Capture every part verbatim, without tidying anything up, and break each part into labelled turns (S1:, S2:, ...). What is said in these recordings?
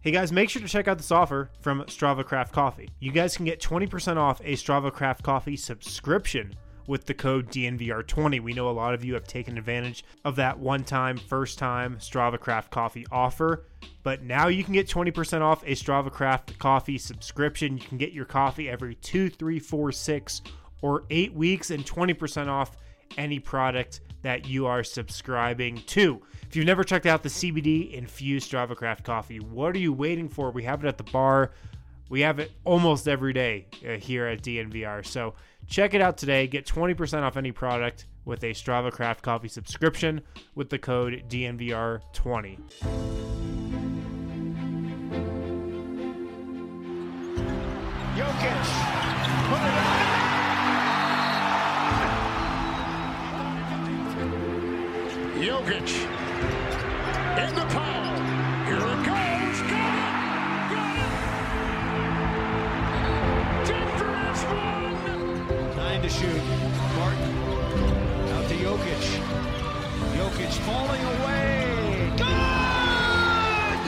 S1: Hey guys, make sure to check out this offer from Strava Craft Coffee. You guys can get twenty percent off a Strava Craft Coffee subscription with the code D N V R twenty. We know a lot of you have taken advantage of that one-time, first-time Strava Craft Coffee offer, but now you can get twenty percent off a Strava Craft Coffee subscription. You can get your coffee every two, three, four, six, or eight weeks and twenty percent off any product that you are subscribing to. If you've never checked out the C B D infused Strava Craft coffee, what are you waiting for? We have it at the bar. We have it almost every day uh, here at D N V R. So check it out today. Get twenty percent off any product with a Strava Craft coffee subscription with the code D N V R twenty.
S2: Jokic, put it on. Jokic in the power. Here it goes. Got it. Got it. Denver has won. Nine to shoot. Martin out to Jokic. Jokic falling away. Good.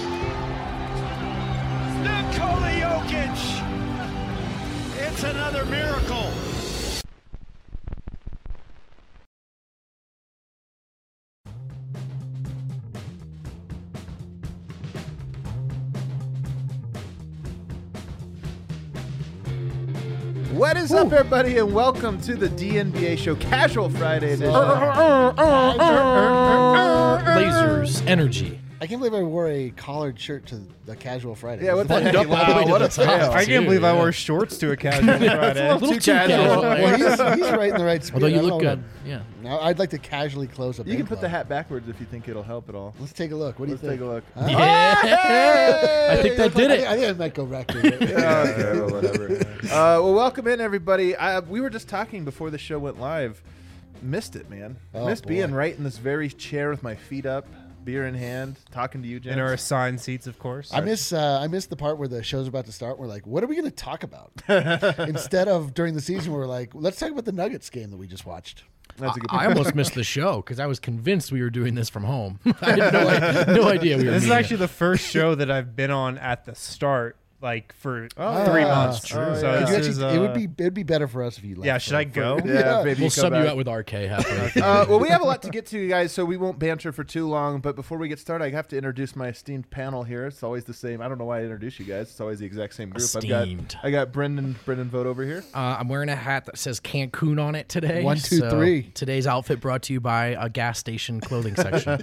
S2: Nikola Jokic. It's another miracle.
S3: What is up, everybody, and welcome to the D N B A Show Casual Friday edition.
S4: Lasers, energy.
S5: I can't believe I wore a collared shirt to the Casual Friday.
S3: Yeah, what the
S4: Buttoned
S3: heck?
S4: up all the way to
S3: Wow,
S4: the
S3: what a
S4: top.
S3: fail.
S6: I can't believe I
S4: yeah.
S6: wore shorts to a casual Friday.
S4: A little
S3: Too
S4: too
S3: casual.
S4: casual.
S5: Well, he's, he's right in the right spirit.
S4: Although you
S5: I don't
S4: look
S5: know
S4: good. Yeah.
S5: Now, I'd like to casually close up.
S3: You can put the hat backwards if you think it'll help at all.
S5: Let's take a look. What do
S3: Let's
S5: you think?
S3: take a look.
S5: Huh?
S4: Yeah. I think that did
S5: I
S4: it.
S5: think, I think I might go rectum.
S3: Yeah, okay, well, whatever. Uh, well, welcome in, everybody. I, we were just talking before the show went live. Missed it, man.
S5: Oh,
S3: Missed
S5: boy.
S3: being right in this very chair with my feet up, beer in hand, talking to you, James.
S6: In our assigned seats, of course.
S5: I miss uh, I miss the part where the show's about to start. We're like, what are we going to talk about? Instead of during the season, we're like, let's talk about the Nuggets game that we just watched.
S3: That's a good
S4: I almost missed the show because I was convinced we were doing this from home. I had no, I- no idea we were
S6: This is
S4: meeting.
S6: actually the first show that I've been on at the start, like for
S3: Oh,
S6: three
S5: yeah.
S6: months.
S3: True. Oh,
S6: So
S3: yeah.
S6: this
S5: Could you
S6: is,
S5: actually, it would
S6: uh,
S5: be it'd be better for us if you left.
S6: Yeah, should
S5: for-
S6: I go?
S5: for-
S3: Yeah, maybe
S4: We'll
S3: come
S4: sub you
S3: back.
S4: out with R K halfway. through.
S3: Uh, well, we have a lot to get to, guys, so we won't banter for too long. But before we get started, I have to introduce my esteemed panel here. It's always the same. I don't know why I introduce you guys. It's always the exact same group. I've
S4: Esteemed.
S3: got I got Brendan Brendan Vogt over here.
S4: Uh, I'm wearing a hat that says Cancun on it today.
S5: One, two,
S4: so
S5: three.
S4: Today's outfit brought to you by a gas station clothing section.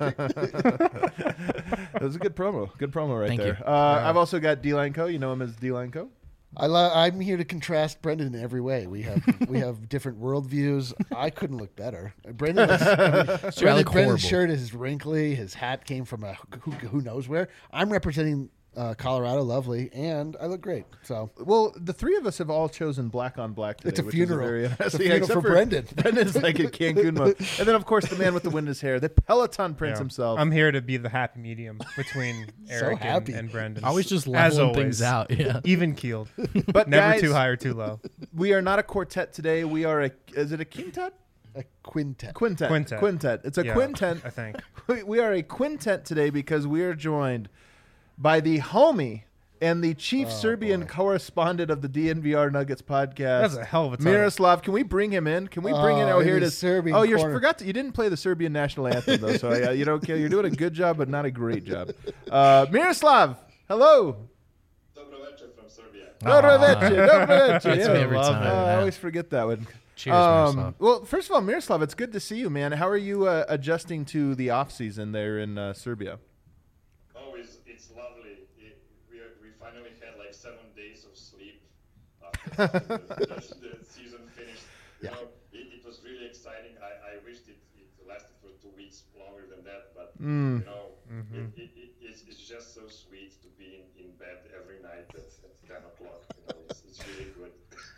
S3: That was a good promo. Good promo right
S4: Thank
S3: there.
S4: you.
S3: Uh, I've also got D-Line Co. You know him as D-Line Co.
S5: I lo- I'm here to contrast Brendan in every way. We have we have different worldviews. I couldn't look better. Brendan, looks, I mean, Brendan
S4: look
S5: Brendan's
S4: horrible.
S5: shirt is wrinkly. His hat came from a who, who knows where. I'm representing uh, Colorado, lovely, and I look great. So
S3: Well, the three of us have all chosen black on black today.
S5: It's a
S3: which
S5: funeral.
S3: Is a very,
S5: It's a
S3: yeah,
S5: funeral
S3: except
S5: for Brendan.
S3: Brendan's like in Cancun mode. And then, of course, the man with the wind in his hair, the Peloton Prince
S6: Yeah.
S3: himself.
S6: I'm here to be the happy medium between Eric and,
S5: happy.
S6: and Brendan.
S4: Always just
S6: As
S4: leveling
S6: always.
S4: things out. Yeah.
S6: Even keeled.
S3: but
S6: Never
S3: guys,
S6: too high or too low.
S3: we are not a quartet today. We are a, is it a quintet?
S5: a quintet.
S3: Quintet.
S6: Quintet.
S3: Quintet. It's a
S6: Yeah,
S3: quintet.
S6: I think.
S3: We, we are a quintet today because we are joined by the homie and the chief Serbian
S5: boy.
S3: correspondent of the D N V R Nuggets podcast.
S6: That's a hell of a title.
S3: Miroslav, can we bring him in? Can we bring in?
S5: Oh,
S3: Oh, here
S5: in
S3: it
S5: the
S3: is.
S5: Serbian
S3: oh, you
S5: corner.
S3: forgot to, you didn't play the Serbian national anthem though, so uh, you don't care. You're doing a good job, but not a great job. Uh, Miroslav, hello.
S7: Dobro večer from Serbia.
S3: Dobro večer, dobro večer.
S4: Gets me
S3: Yeah.
S4: every
S6: love
S4: time.
S6: it.
S3: Oh, I
S4: yeah.
S3: always forget that one.
S4: Cheers,
S3: Um,
S4: Miroslav.
S3: well, first of all, Miroslav, it's good to see you, man. How are you uh, adjusting to the off season there in uh, Serbia?
S7: Oh, it's, it's lovely. It, we, are, we finally had like seven days of sleep after the, the, the season finished. You know, it, it was really exciting. I, I wished it, it lasted for two weeks longer than that, but
S3: Mm.
S7: you know, it, it, it, it's, it's just so sweet to be in, in bed every night at, at ten o'clock. You know, it's, it's really good.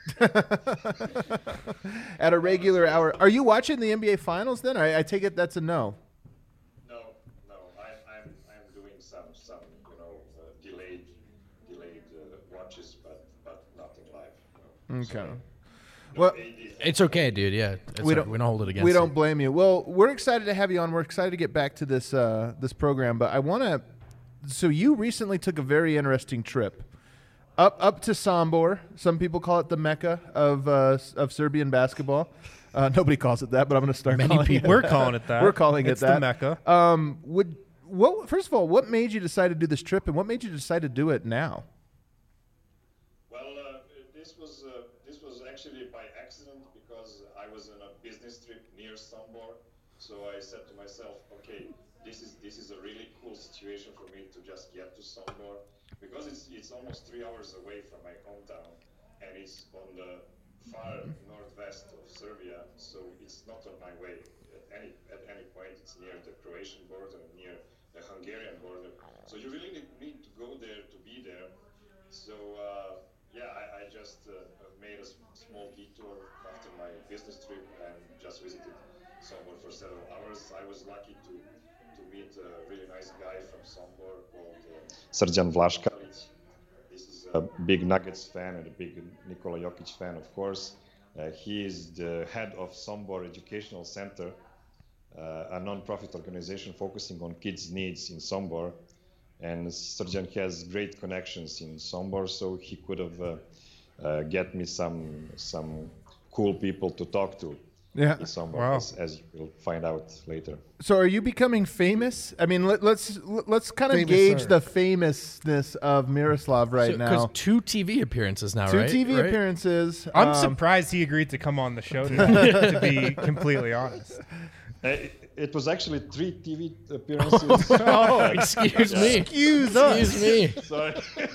S3: At a regular hour. Are you watching the N B A Finals then? I, I take it that's a no.
S7: No, no, I, I'm I'm doing some some you know uh, delayed delayed uh, watches, but but nothing live. No.
S3: Okay.
S7: Sorry. No
S3: Well,
S7: A D.
S4: It's okay, dude. Yeah. It's
S3: We
S4: we,
S3: don't-
S4: don't, we don't hold it against
S3: we
S4: you.
S3: don't blame you. Well, we're excited to have you on. We're excited to get back to this uh, this program, but I want to so you recently took a very interesting trip up up to Sombor. Some people call it the Mecca of uh, of Serbian basketball. Uh, nobody calls it that, but I'm going to start
S4: Many
S3: calling
S4: people.
S3: it.
S6: We're calling it that.
S3: We're calling
S6: it's
S3: it that.
S6: the Mecca.
S3: Um, would what? First of all, what made you decide to do this trip, and what made you decide to do it now?
S7: Well, uh, this was uh, this was actually by accident because I was on a business trip near Sombor. So I said to myself, okay, this is this is a really cool situation for me to just get to Sombor because it's it's almost three hours away from my hometown, and it's on the far northwest of Serbia. So it's not on my way at any at any point. It's near the Croatian border, near the Hungarian border. So you really need, need to go there to be there. So uh, yeah, I, I just uh, made a s- small detour after my business trip and just visited Sombor for several hours. I was lucky to to meet a really nice guy from Sombor called uh, Srđan Vlaškalić. This is a big Nuggets fan and a big Nikola Jokic fan, of course. Uh, he is the head of Sombor Educational Center, uh, a non-profit organization focusing on kids' needs in Sombor. And Srđan has great connections in Sombor, so he could have uh, uh, get me some some cool people to talk to
S3: Yeah.
S7: in Sombor,
S6: Wow.
S7: as, as you will find out later.
S3: So, are you becoming famous? I mean, let, let's let's kind of
S5: Famous,
S3: gauge
S5: sir.
S3: the famousness of Miroslav right
S4: Because
S3: now.
S4: two T V appearances now,
S3: Two
S4: right?
S3: T V
S4: Right?
S3: appearances.
S6: I'm
S3: um,
S6: surprised he agreed to come on the show today, to be completely honest.
S7: Uh, it, it was actually three T V appearances.
S4: Oh, excuse me.
S3: Excuse us.
S4: Excuse me.
S7: Sorry.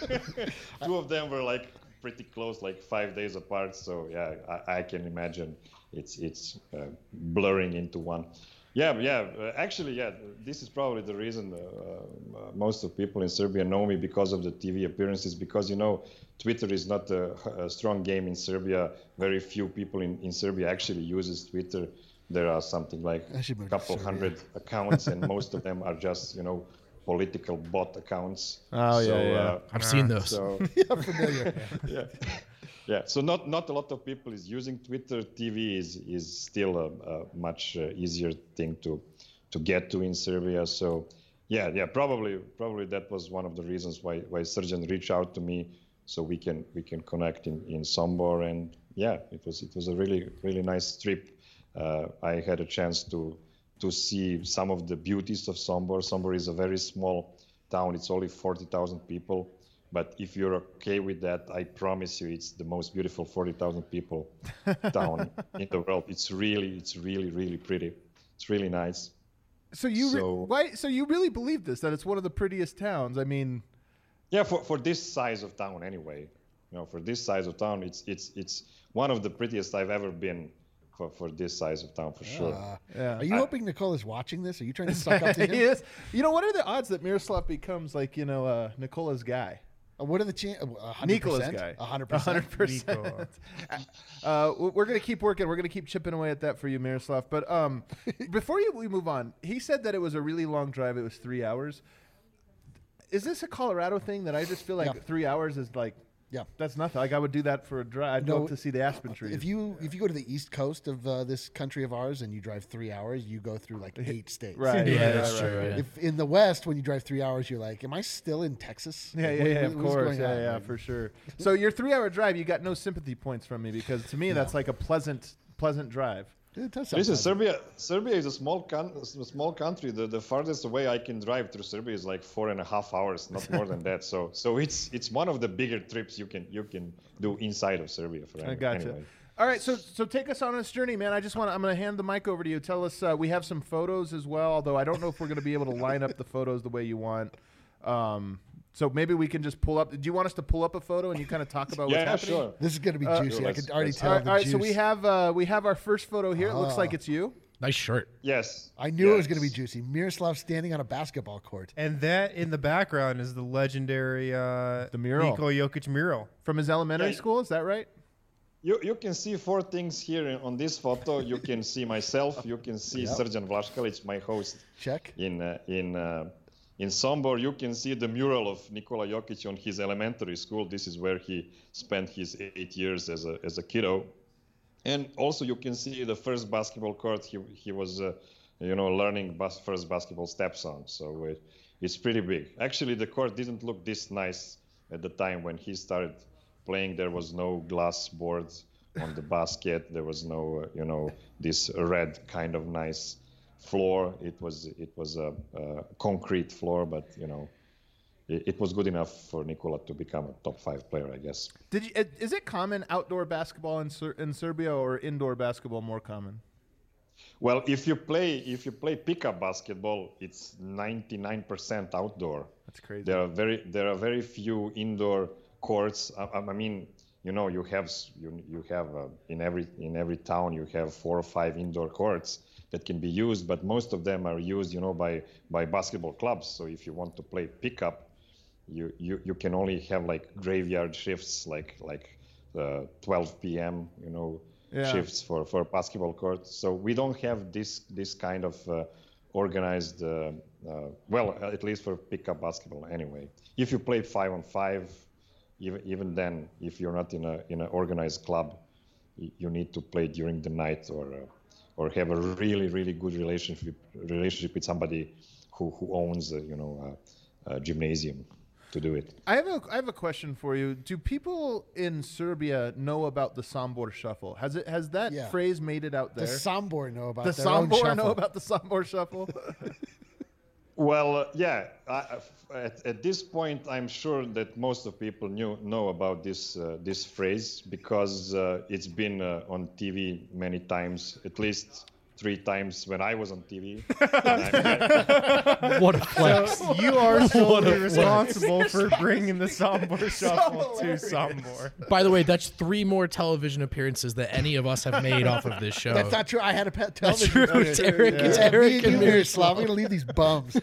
S7: Two of them were like pretty close, like five days apart. So yeah, I, I can imagine it's it's uh, blurring into one. Yeah, yeah. Uh, actually, yeah. This is probably the reason uh, uh, most of people in Serbia know me because of the T V appearances. Because you know, Twitter is not a, a strong game in Serbia. Very few people in, in Serbia actually uses Twitter. There are something like
S5: I should
S7: a
S5: move to
S7: couple
S5: Serbia.
S7: hundred accounts, and most of them are just you know political bot accounts.
S3: Oh, yeah,
S7: so,
S3: yeah.
S7: Uh,
S4: I've seen those.
S7: so
S5: Yeah, familiar.
S7: yeah, yeah. So not not a lot of people is using Twitter. T V is is still a, a much uh, easier thing to to get to in Serbia. So yeah, yeah. Probably probably that was one of the reasons why why Srđan reached out to me so we can we can connect in in Sombor. And yeah, it was it was a really really nice trip. Uh, I had a chance to to see some of the beauties of Sombor. Sombor is a very small town. It's only forty thousand people. But if you're okay with that, I promise you, it's the most beautiful forty thousand people town in the world. It's really, it's really, really pretty. It's really nice.
S3: So you re-
S7: So-
S3: why? So you really believe this? That it's one of the prettiest towns? I mean,
S7: Yeah, for, for this size of town, anyway. You know, for this size of town, it's it's it's one of the prettiest I've ever been. For, for this size of town, for sure.
S5: Uh,
S3: Yeah.
S5: Are you hoping Nicole is watching this? Are you trying to suck up to him?
S3: yes. You know, what are the odds that Miroslav becomes like you know uh, Nicola's guy?
S5: Uh, What are the chances?
S3: Nicola's guy.
S5: A hundred
S3: A
S5: percent.
S3: hundred percent.
S6: Nico.
S3: Uh, w- we're gonna keep working. We're gonna keep chipping away at that for you, Miroslav. But um, before you, we move on, he said that it was a really long drive. It was three hours. Is this a Colorado thing that I just feel like
S5: Yeah.
S3: three hours is like
S5: Yeah.
S3: that's nothing? Like I would do that for a drive. I'd go
S5: No,
S3: up to see the aspen trees.
S5: If you if you go to the east coast of uh, this country of ours and you drive three hours, you go through like eight states.
S3: right,
S4: Yeah,
S3: right,
S4: that's
S3: right,
S4: true,
S3: right.
S4: yeah.
S5: If in the west, when you drive three hours, you're like, "Am I still in Texas?"
S3: Yeah,
S5: Like,
S3: yeah,
S5: what-
S3: yeah,
S5: what-
S3: of
S5: what's
S3: course.
S5: going
S3: Yeah,
S5: on?
S3: yeah,
S5: Like,
S3: for sure. So your three-hour drive, you got no sympathy points from me because to me that's like a pleasant, pleasant drive.
S5: it does sound
S7: Listen,
S5: pleasant.
S7: Serbia Serbia is a small con- a small country. The, the farthest away I can drive through Serbia is like four and a half hours, not more than that. So so it's it's one of the bigger trips you can you can do inside of Serbia. For
S3: I
S7: any,
S3: gotcha.
S7: Anyway.
S3: All right, so so take us on this journey, man. I just want to. I'm going to hand the mic over to you. Tell us. Uh, we have some photos as well, although I don't know if we're going to be able to line up the photos the way you want. Um, so maybe we can just pull up. Do you want us to pull up a photo and you kind of talk about
S7: Yeah,
S3: what's happening?
S7: sure.
S5: This is going to be
S3: Uh,
S5: juicy. I
S7: let's-
S5: can already
S7: let's-
S5: tell
S3: All right,
S5: the
S3: all right
S5: juice.
S3: so we have uh, we have our first photo here. It looks
S5: Ah.
S3: like it's you.
S4: Nice shirt.
S7: Yes.
S5: I knew it was
S7: yes.
S5: going to be juicy. Miroslav standing on a basketball court.
S6: And that in the background is the legendary uh,
S3: The mural.
S6: Nikola Jokic mural.
S3: From his elementary
S7: Yeah.
S3: school, is that right?
S7: You you can see four things here in- on this photo. You can see myself. You can see
S5: Yep.
S7: Srđan Vlaškalić, my host
S5: Check.
S7: in uh, in uh, in Sombor. You can see the mural of Nikola Jokic on his elementary school. This is where he spent his eight years as a as a kiddo. And also you can see the first basketball court he he was uh, you know learning bas- first basketball steps on. So uh, it's pretty big. Actually, the court didn't look this nice at the time when he started playing. There was no glass boards on the basket. There was no, uh, you know, this red kind of nice floor. It was it was a, a concrete floor, but you know, it, it was good enough for Nikola to become a top five player, I guess.
S3: Did you? Is it common outdoor basketball in Ser- in Serbia or indoor basketball more common?
S7: Well, if you play if you play pickup basketball, it's ninety-nine percent outdoor.
S3: That's crazy.
S7: There are very there are very few indoor courts. I, I mean, you know, you have you you have uh, in every in every town you have four or five indoor courts that can be used, but most of them are used, you know, by by basketball clubs. So if you want to play pickup, you you, you can only have like graveyard shifts, like like uh, twelve p.m. you know. Yeah. Shifts for, for basketball court. So we don't have this this kind of uh, organized, uh, uh, well, at least for pickup basketball anyway. If you play five on five, even even then, if you're not in a in an organized club, you need to play during the night or uh, or have a really really good relationship relationship with somebody who who owns a, you know a, a gymnasium to do it.
S3: I have a I have a question for you. Do people in Serbia know about the Sombor Shuffle? Has it has that
S5: Yeah.
S3: phrase made it out there?
S5: The Sombor know about
S3: The
S5: their own
S3: Sombor
S5: shuffle.
S3: know about the Sombor Shuffle?
S7: Well, uh, yeah. I, at, at this point, I'm sure that most of people knew know about this uh, this phrase because uh, it's been uh, on T V many times, at least three times when I was on T V.
S4: What a flex.
S1: So you are solely responsible for bringing the Sombor Shuffle to Sombor.
S4: By the way, that's three more television appearances that any of us have made off of this show.
S5: That's not true. I had a pet
S4: That's
S5: television.
S4: true. It's Eric, it's
S5: Yeah, me
S4: Eric
S5: and
S4: and
S5: you,
S4: Miroslav.
S5: Miroslav. We're gonna leave these bums.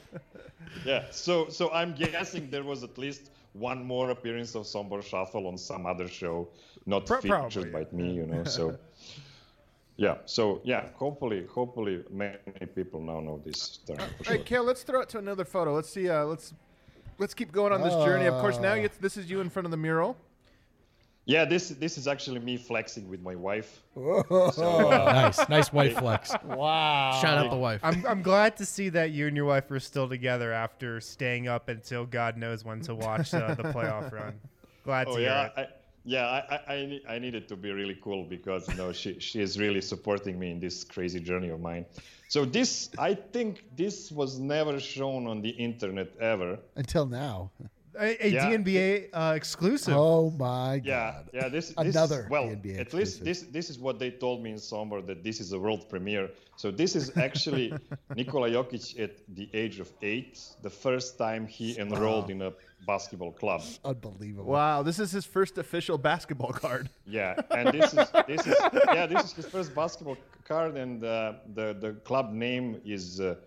S7: Yeah. So so I'm guessing there was at least one more appearance of Sombor Shuffle on some other show, not
S1: Pro-
S7: featured
S1: probably,
S7: by me, you know. So. Yeah, so yeah, hopefully, hopefully many people now know this term. For
S3: All
S7: sure.
S3: right, Kale, let's throw it to another photo. Let's see. Uh, let's let's keep going on this journey. Of course, now you, this is you in front of the mural.
S7: Yeah, this this is actually me flexing with my wife.
S5: Whoa.
S7: So, uh,
S4: Nice, nice wife flex.
S5: Wow.
S4: Shout out the wife.
S1: I'm I'm glad to see that you and your wife are still together after staying up until God knows when to watch uh, the playoff run. Glad to
S7: oh
S1: hear
S7: yeah,
S1: it.
S7: I, yeah, I I I, need, I needed to be really cool because you know she she is really supporting me in this crazy journey of mine. So this I think this was never shown on the internet ever.
S5: Until now.
S1: A, a
S7: Yeah.
S1: D N B A uh, exclusive.
S5: Oh my
S7: Yeah,
S5: god.
S7: yeah. This, this
S5: Another
S7: well,
S5: D N B A
S7: at least
S5: exclusive.
S7: this this is what they told me in Sombor, that this is a world premiere. So this is actually Nikola Jokic at the age of eight, the first time he enrolled in a basketball club.
S5: Unbelievable.
S3: Wow, this is his first official basketball card.
S7: Yeah, and this is this is yeah this is his first basketball card, and uh, the the club name is uh,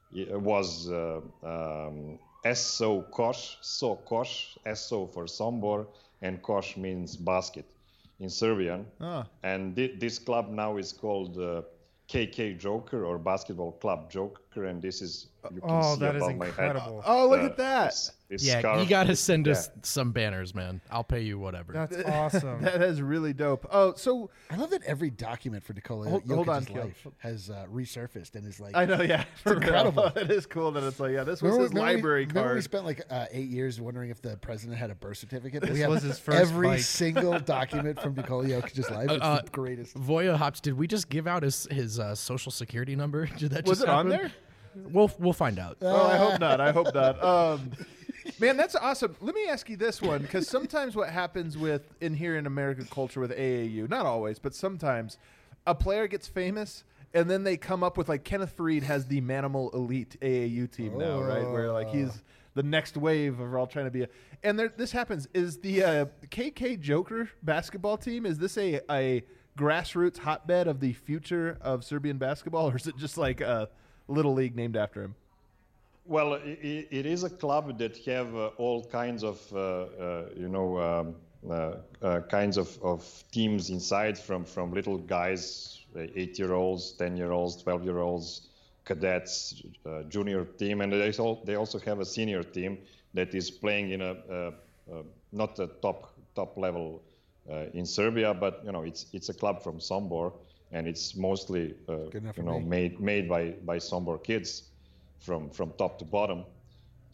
S7: was uh, um, S O Koš, So Koš, S O for Sombor, and Koš means basket in Serbian.
S3: Ah.
S7: And thi- this club now is called uh, K K Joker or Basketball Club Joker, and this is you can
S1: Oh,
S7: see
S1: that is
S7: above my head.
S1: incredible.
S3: Oh, look
S7: uh,
S3: at that.
S7: This, this
S4: Yeah,
S7: scarf.
S4: you got to send us
S7: Yeah.
S4: some banners, man. I'll pay you whatever.
S1: That's awesome.
S3: That is really dope. Oh, so
S5: I love that every document for Nikola
S3: Hold-
S5: Jokic's
S3: hold on, Kale.
S5: life has uh, resurfaced and is like.
S3: I know, yeah, for real.
S5: incredible.
S3: It is cool that it's like, yeah, this was
S5: Remember,
S3: his
S5: remember we-
S3: library
S5: remember we
S3: card.
S5: spent like uh, eight years wondering if the president had a birth certificate. we
S1: This
S5: have
S1: was his first
S5: every
S1: bike.
S5: single document from Nikola Jokic's life. It's
S4: Uh,
S5: the greatest.
S4: Voya Hops, did we just give out his his uh, social security number? Did that
S3: Was
S4: just
S3: it on
S4: happen?
S3: there?
S4: We'll we'll find out.
S3: Oh, I hope not. I hope not. Um, man, that's awesome. Let me ask you this one, because sometimes what happens with in here in American culture with A A U, not always, but sometimes, a player gets famous and then they come up with like Kenneth Fareed has the Manimal Elite A A U team now, right? Where like he's the next wave of all trying to be a. And there, this happens. Is the uh, K K Joker basketball team? Is this a a grassroots hotbed of the future of Serbian basketball, or is it just like a little league named after him?
S7: Well, it, it is a club that have uh, all kinds of, uh, uh, you know, um, uh, uh, kinds of, of teams inside, from, from little guys, uh, eight-year-olds, ten-year-olds, twelve-year-olds, cadets, uh, junior team, and they, all, they also have a senior team that is playing in a, uh, uh, not a top top level uh, in Serbia, but you know, it's it's a club from Sombor, and it's mostly uh,
S5: Good enough
S7: you
S5: for
S7: know
S5: me.
S7: made made by by Sombor kids from from top to bottom.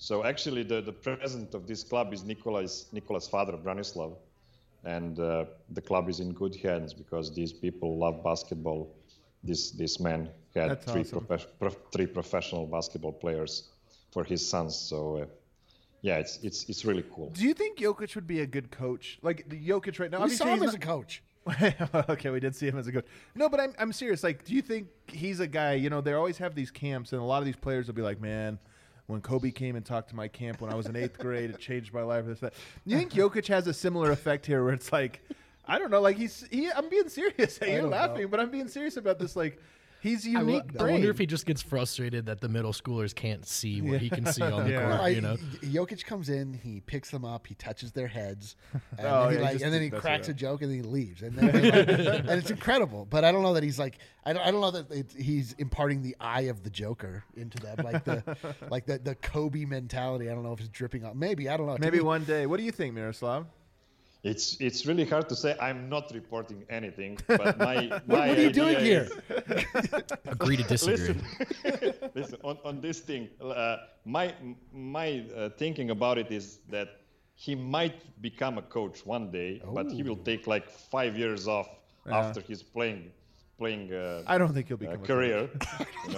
S7: So actually, the, the president of this club is Nikola's Nikola's father, Branislav, and uh, the club is in good hands because these people love basketball. This this man had
S3: That's
S7: three
S3: awesome.
S7: profe- prof- three professional basketball players for his sons. So uh, yeah, it's it's it's really cool.
S3: Do you think Jokic would be a good coach? Like Jokic right now,
S5: We
S3: obviously
S5: saw him
S3: he's
S5: as a
S3: not-
S5: coach.
S3: Okay, we did see him as a coach. No, but I'm I'm serious. Like, do you think he's a guy? You know, they always have these camps, and a lot of these players will be like, "Man, when Kobe came and talked to my camp when I was in eighth grade, it changed my life." This that. You think Jokic has a similar effect here, where it's like, I don't know, like he's he. I'm being serious. You're
S5: don't
S3: laughing,
S5: know.
S3: but I'm being serious about this. Like, he's
S4: I, wo-
S3: unique.
S4: I
S3: brain.
S4: wonder if he just gets frustrated that the middle schoolers can't see what he can see on the
S1: Yeah.
S4: court.
S5: I,
S4: You know,
S5: Jokic comes in, he picks them up, he touches their heads, and,
S3: Oh,
S5: then, he
S3: yeah, he
S5: like,
S3: just
S5: and then he
S3: messes
S5: cracks a
S3: around.
S5: joke, and then he leaves, and, then, like, and it's incredible. But I don't know that he's like, I don't, I don't know that it, he's imparting the eye of the Joker into them, like the like the the Kobe mentality. I don't know if it's dripping out. Maybe I don't know. To
S3: Maybe
S5: me-
S3: one day. What do you think, Miroslav?
S7: It's it's really hard to say. I'm not reporting anything, but my
S5: What,
S7: my
S5: what are you doing
S7: idea
S5: here?
S7: is-
S4: agree to disagree.
S7: Listen, listen on, on this thing, uh, my my uh, thinking about it is that he might become a coach one day, but he will take like five years off
S3: Yeah.
S7: after his playing playing uh,
S3: I don't think he'll
S7: uh,
S3: become a
S7: career. you know.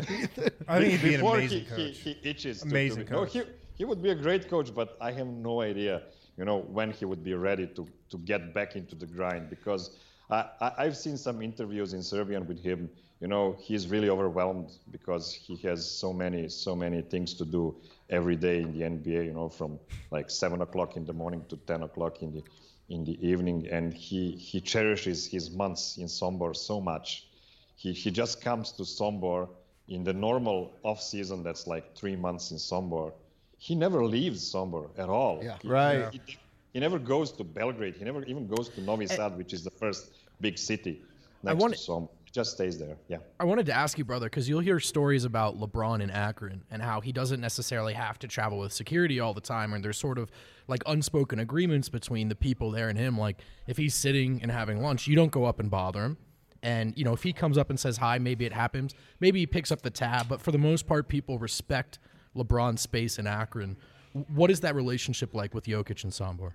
S1: I think he'd be an
S7: Before
S1: amazing
S7: he,
S1: coach.
S7: He, he itches to-
S1: Amazing
S7: to, be- no,
S1: coach.
S7: he, he would be a great coach, but I have no idea, you know, when he would be ready to, to get back into the grind because I, I, I've seen some interviews in Serbian with him. You know, he's really overwhelmed because he has so many, so many things to do every day in the N B A, you know, from like seven o'clock in the morning to ten o'clock in the in the evening. And he, he cherishes his months in Sombor so much. He, he just comes to Sombor in the normal off season that's like three months in Sombor. He never leaves Sombor at all.
S5: Yeah.
S7: He,
S3: Right.
S7: He, he never goes to Belgrade. He never even goes to Novi Sad, which is the first big city next
S4: wanna-
S7: to Sombor. He just stays there. Yeah.
S4: I wanted to ask you, brother, because you'll hear stories about LeBron in Akron and how he doesn't necessarily have to travel with security all the time, and there's sort of like unspoken agreements between the people there and him. Like if he's sitting and having lunch, you don't go up and bother him. And, you know, if he comes up and says hi, maybe it happens. Maybe he picks up the tab. But for the most part, people respect LeBron's space in Akron. What is that relationship like with Jokic and Sombor?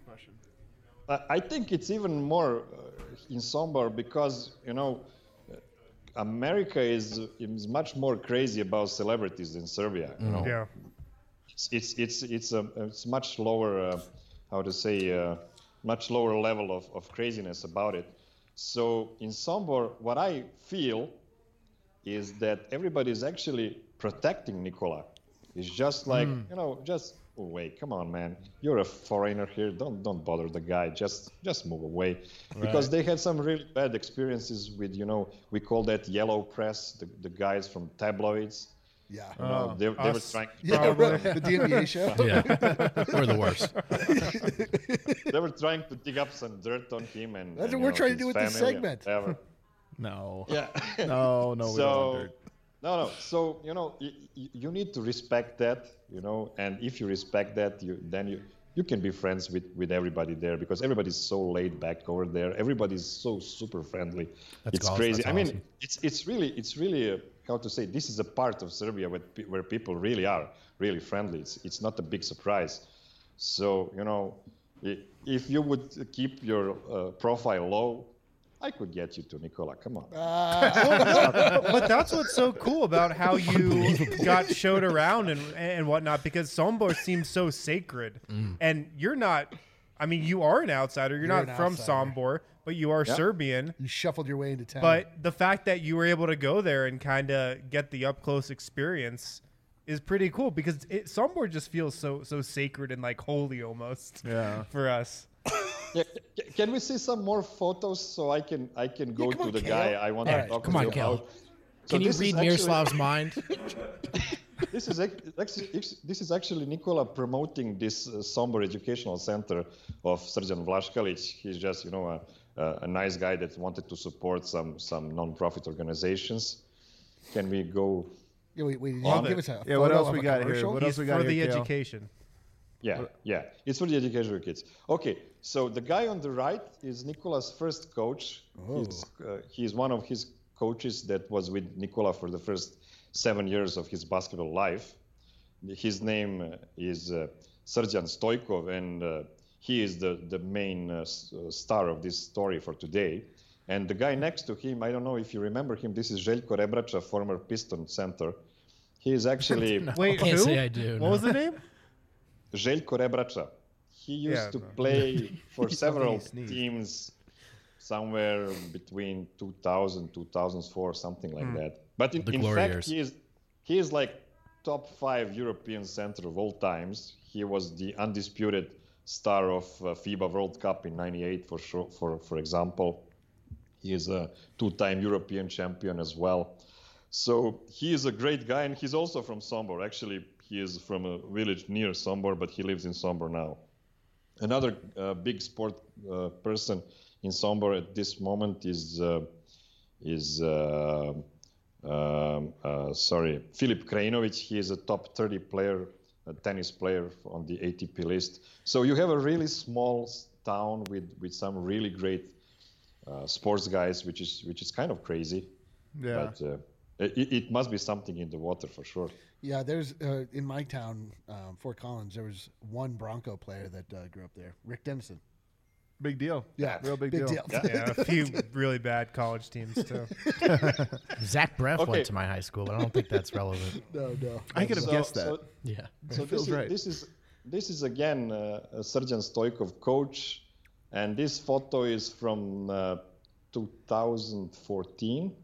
S7: I I think it's even more uh, in Sombor because, you know, uh, America is is much more crazy about celebrities than Serbia. You know,
S1: Yeah.
S7: it's it's it's it's a it's much lower, uh, how to say, uh, much lower level of, of craziness about it. So in Sombor, what I feel is that everybody is actually protecting Nikola. It's just like you know, just oh, wait, come on, man, you're a foreigner here. Don't don't bother the guy. Just just move away, because they had some really bad experiences with you know we call that yellow press, the, the guys from tabloids.
S5: Yeah.
S7: You know, they, they were
S1: us.
S7: trying.
S5: Yeah, right. The D N B A show.
S4: Yeah, we're the worst.
S7: They were trying to dig up some dirt on him, and
S5: That's
S7: and,
S5: what we're
S7: you know,
S5: trying to
S7: his
S5: do with this
S7: family and
S5: segment.
S7: whatever.
S3: No.
S7: Yeah.
S3: No, no, we don't
S7: so
S3: want dirt.
S7: no, no. So you know, y- y- you need to respect that, you know, and if you respect that, you then you you can be friends with with everybody there because everybody's so laid back over there. Everybody's so super friendly.
S4: That's
S7: it's
S4: awesome.
S7: crazy.
S4: That's
S7: I mean,
S4: awesome.
S7: it's it's really it's really a, how to say this is a part of Serbia where pe- where people really are really friendly. It's it's not a big surprise. So you know, i- if you would keep your uh, profile low, I could get you to Nikola. Come on.
S1: But that's what's so cool about how you got showed around and and whatnot, because Sombor seems so sacred, and you're not. I mean, you are an outsider. You're,
S5: You're
S1: not
S5: an
S1: from
S5: outsider.
S1: Sombor, but you are
S7: Yeah.
S1: Serbian.
S5: You shuffled your way into town.
S1: But the fact that you were able to go there and kind of get the up close experience is pretty cool, because it, Sombor just feels so so sacred and like holy almost.
S3: Yeah.
S1: For us.
S7: Yeah, c- can we see some more photos so I can I can go
S5: come
S7: to
S5: on,
S7: the
S5: Kale.
S7: guy I want
S5: All
S7: to
S5: right,
S7: talk
S4: come
S7: to
S4: on,
S7: you
S4: Kale.
S7: about? So
S4: Can you
S7: this is
S4: read
S7: actually-
S4: Miroslav's mind?
S7: This is ac- actually this is actually Nikola promoting this uh, Sombor Educational Center of Srđan Vlaškalić. He's just you know a, a, a nice guy that wanted to support some some non-profit organizations. Can we go?
S5: yeah, wait, wait,
S1: Love
S5: give
S1: it.
S5: us a
S3: Yeah, what
S5: photo
S3: else
S5: of
S3: we
S5: a
S3: got here?
S5: commercial?
S3: What
S1: He's
S3: else we got
S1: for the
S3: here, Kale?
S1: education.
S7: Yeah, yeah. It's for the education of kids. Okay, so the guy on the right is Nikola's first coach. He's, uh, he's one of his coaches that was with Nikola for the first seven years of his basketball life. his name uh, is uh, Srdjan Stojkov, and uh, he is the, the main uh, s- uh, star of this story for today. And the guy next to him, I don't know if you remember him, this is Željko Rebrača, former Piston center. He is actually
S1: Wait,
S4: Can't
S1: who?
S4: say I do.
S1: What
S4: no.
S1: was the name?
S7: Željko Rebrača. He used
S1: Yeah,
S7: to
S1: no.
S7: play for several
S3: sneezed.
S7: teams somewhere between two thousand, two thousand four, something like
S1: Hmm.
S7: that. But in,
S4: The
S7: in
S4: glory
S7: fact,
S4: years.
S7: he is, he is like top five European center of all times. He was the undisputed star of uh, FIBA World Cup in ninety-eight, for sure, for, for example. He is a two-time European champion as well. So he is a great guy, and he's also from Sombor. Actually, he is from a village near Sombor, but he lives in Sombor now. Another uh, big sport uh, person in Sombor at this moment is uh, is uh, um, uh, sorry Filip Krajinovic. He is a top thirty player, a tennis player on the A T P list. So you have a really small s- town with with some really great uh, sports guys, which is which is kind of crazy.
S3: Yeah.
S7: But uh, it, it must be something in the water for sure.
S5: Yeah, there's uh, in my town, um, Fort Collins. There was one Bronco player that uh, grew up there, Rick Dennison.
S3: Big deal.
S5: Yeah,
S3: Real big,
S5: big
S3: deal.
S5: deal.
S1: Yeah, a few really bad college teams too.
S4: Zach Breff
S7: Okay.
S4: went to my high school, but I don't think that's relevant.
S5: No, no.
S3: I could have
S7: So-
S3: guessed that.
S7: so-
S4: Yeah.
S7: So
S3: feels
S7: this is,
S3: right.
S7: this is this is again uh, a Srdjan Stojkov coach, and this photo is from uh, two thousand fourteen.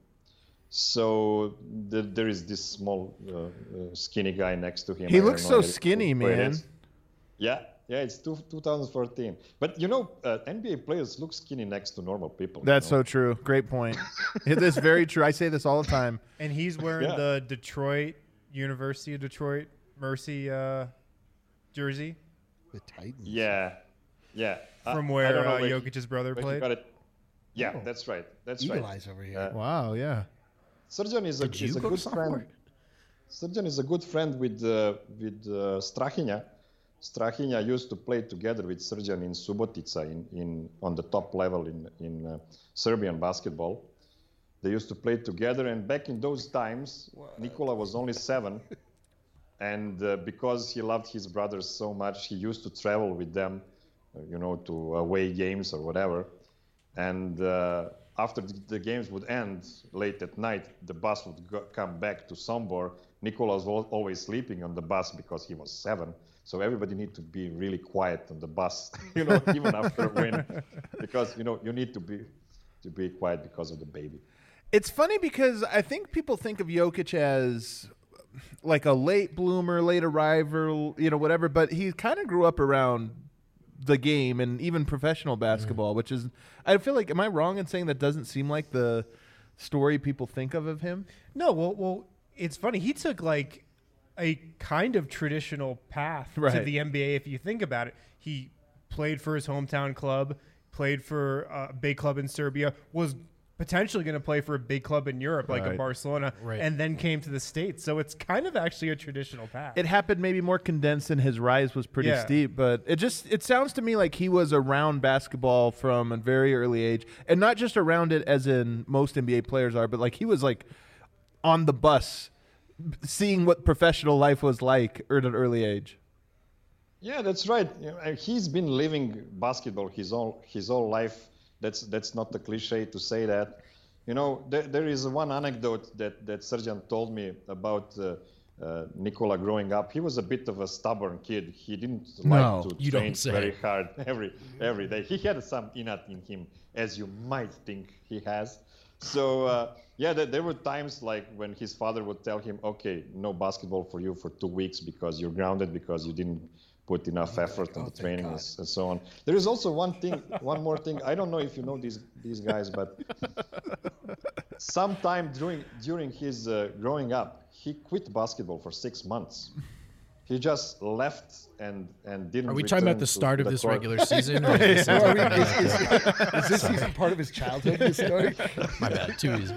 S7: So the, there is this small uh, uh, skinny guy next to him.
S3: He
S7: I don't
S3: looks
S7: know
S3: so
S7: who-
S3: skinny,
S7: who it
S3: man.
S7: is. Yeah, yeah, it's two, two thousand fourteen. But you know, uh, N B A players look skinny next to normal people. you
S3: That's
S7: know?
S3: so true. Great point. It is very true. I say this all the time.
S1: And he's wearing
S7: Yeah.
S1: the Detroit University of Detroit Mercy uh, jersey
S5: The Titans.
S7: Yeah, yeah. I-
S1: from
S7: I
S1: where
S7: don't know
S1: uh,
S7: where he-
S1: Jokic's brother
S7: where he
S1: played.
S7: got it. Yeah,
S5: Oh.
S7: that's right. That's
S5: Eagle
S7: right.
S5: Eyes over here.
S7: Uh,
S3: Wow. Yeah.
S7: Srdjan is a,
S4: Did you
S7: is a
S4: go to
S7: good
S4: sophomore?
S7: friend. Srdjan is a good friend with uh, with uh, Strahinja. Strahinja used to play together with Srdjan in Subotica in, in on the top level in in uh, Serbian basketball. They used to play together, and back in those times, Nikola was only seven, and uh, because he loved his brothers so much, he used to travel with them, uh, you know, to away games or whatever. And uh, after the, the games would end late at night, the bus would go, come back to Sombor. Nikola was al- always sleeping on the bus because he was seven. So everybody need to be really quiet on the bus, you know, even after a win, because you know you need to be to be quiet because of the baby.
S3: It's funny because I think people think of Jokic as like a late bloomer, late arrival, you know, whatever. But he kind of grew up around the game and even professional basketball, which is, I feel like, am I wrong in saying that doesn't seem like the story people think of of him?
S1: No, well, well, it's funny. He took like a kind of traditional path to
S3: Right.
S1: the N B A. If you think about it, he played for his hometown club, played for a big club in Serbia, was potentially going to play for a big club in Europe, like a
S3: Right.
S1: Barcelona,
S4: Right.
S1: and then came to the States. So it's kind of actually a traditional path.
S3: It happened maybe more condensed and his rise was pretty
S1: Yeah.
S3: steep, but it just it sounds to me like he was around basketball from a very early age, and not just around it as in most N B A players are, but like he was like on the bus seeing what professional life was like at an early age.
S7: Yeah, that's right. You know, and he's been living basketball his whole his whole life. That's that's not a cliche to say that. You know, there, there is one anecdote that that Srdjan told me about uh, uh, Nikola growing up. He was a bit of a stubborn kid. He didn't
S3: No,
S7: like to
S4: you don't
S7: train
S4: say.
S7: very hard every every day. He had some innate in him, as you might think he has. So uh, yeah, there, there were times like when his father would tell him, "Okay, no basketball for you for two weeks because you're grounded because you didn't put enough effort on
S5: oh,
S7: the
S5: thank
S7: training
S5: God.
S7: and, and so on." There is also one thing, one more thing. I don't know if you know these these guys, but sometime during during his uh, growing up, he quit basketball for six months. He just left and and didn't.
S4: Are we talking about
S7: return
S4: the
S7: to-
S4: start
S7: to
S4: of
S7: the
S4: this
S7: court.
S4: regular season? Or is,
S5: So
S4: this
S5: are we, is, is, is this even part of his childhood, this story?
S4: my bad. Too easy.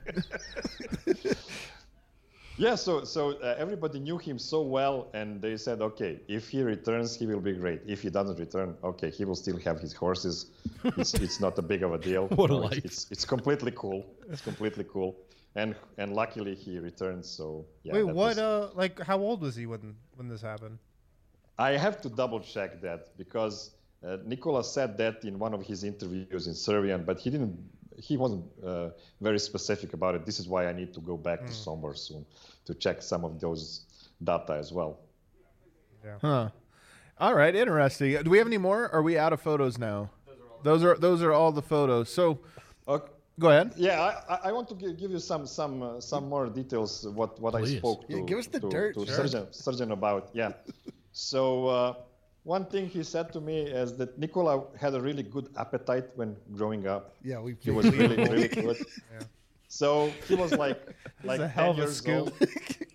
S7: Yeah, so so uh, everybody knew him so well, and they said, okay, if he returns, he will be great. If he doesn't return, okay, he will still have his horses. It's, it's not a big of a deal.
S4: What a
S7: No,
S4: life.
S7: It's, it's it's completely cool. It's completely cool. and and luckily he returned. So yeah.
S6: Wait,
S7: that
S6: what?
S7: was-
S6: Uh, like, how old was he when when this happened?
S7: I have to double check that because uh, Nikola said that in one of his interviews in Serbian, but he didn't. He wasn't uh, very specific about it. This is why I need to go back to Sombor soon to check some of those data as well.
S3: Huh. All right, interesting. Do we have any more? Or are we out of photos now? Those are those are all the photos. So,
S7: Okay.
S3: go ahead.
S7: Yeah, I, I- I want to give, give you some some uh, some more details. What what I
S4: Please.
S7: spoke to,
S5: Yeah, give us the
S7: to,
S5: dirt,
S7: to
S5: sure.
S7: surgeon surgeon about. Yeah. So uh, one thing he said to me is that Nikola had a really good appetite when growing up.
S5: Yeah, we.
S7: He was really really good. So he was like like
S6: a hell
S7: ten
S6: of a
S7: years
S6: scoop.
S7: old.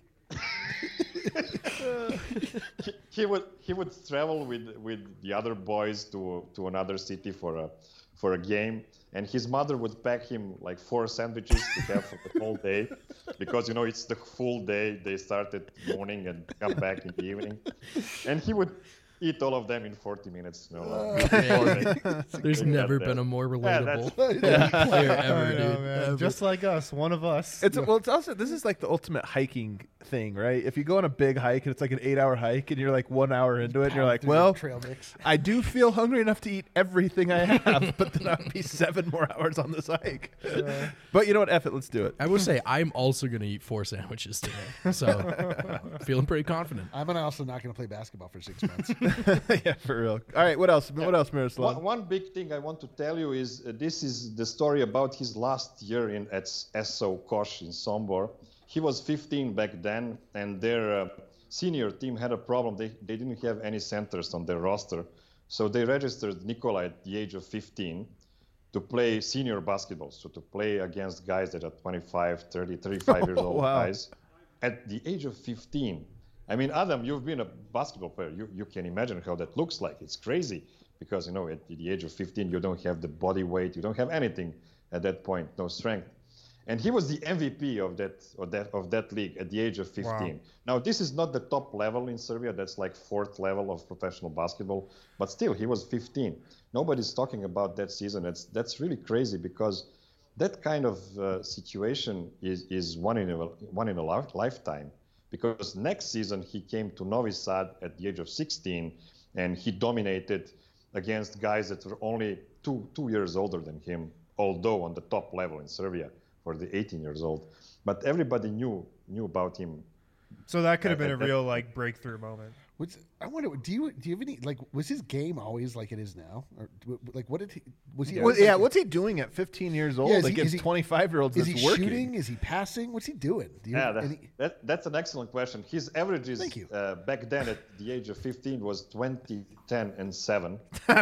S7: he, he would he would travel with with the other boys to to another city for a for a game, and his mother would pack him like four sandwiches to have for the whole day, because you know it's the full day. They start at morning and come back in the evening, and he would eat all of them in forty minutes. You know, like, before they-
S4: There's
S7: they
S4: never
S7: got
S4: been
S7: there.
S4: a more
S7: Yeah,
S4: relatable
S7: that's-
S4: player ever,
S6: I know,
S4: dude.
S6: man.
S4: Ever.
S6: Just like us, one of us.
S3: It's well, it's also this is like the ultimate hiking thing, right? If you go on a big hike and it's like an eight-hour hike, and you're like one hour into it, and you're like,
S5: Through the
S3: well,
S5: trail mix.
S3: I do feel hungry enough to eat everything I have, but then I'll be seven more hours on this hike. But you know what? Eff it, let's do it.
S4: I will say I'm also gonna eat four sandwiches today, so feeling pretty confident.
S5: I'm gonna also not gonna play basketball for six months.
S3: Yeah, for real. All right, what else? What else, Miroslav?
S7: One, one big thing I want to tell you is uh, this is the story about his last year in at S O Kosh in Sombor. He was fifteen back then, and their uh, senior team had a problem. They, they didn't have any centers on their roster. So they registered Nikola at the age of fifteen to play senior basketball, so to play against guys that are twenty-five, thirty, thirty-five years old
S3: Wow.
S7: guys at the age of fifteen. I mean, Adam, you've been a basketball player. You, you can imagine how that looks like. It's crazy because, you know, at the age of fifteen, you don't have the body weight. You don't have anything at that point, no strength. And he was the M V P of that of that of that league at the age of fifteen. Now, this is not the top level in Serbia. That's like fourth level of professional basketball. But still, he was fifteen. Nobody's talking about that season. That's that's really crazy because that kind of uh, situation is is one in a one in a li- lifetime. Because next season he came to Novi Sad at the age of sixteen, and he dominated against guys that were only two two years older than him, although on the top level in Serbia for the eighteen years old. But everybody knew knew about him.
S6: So that could have been a
S7: Uh, that-
S6: real like breakthrough moment.
S5: What's, I wonder, do you do you have any like? Was his game always like it is now, or like what did he? Was he?
S3: Well,
S5: always,
S3: yeah,
S5: like,
S3: what's he doing at fifteen years old
S5: Yeah, is he-
S3: against
S5: is he-
S3: twenty-five-year-olds
S5: Is
S3: that's
S5: he
S3: working?
S5: shooting? Is he passing? What's he doing? Do you
S7: Yeah,
S5: have
S7: that,
S5: any-
S7: that, that's an excellent question. His averages
S5: Thank you.
S7: uh, back then at the age of fifteen was twenty, ten, and seven.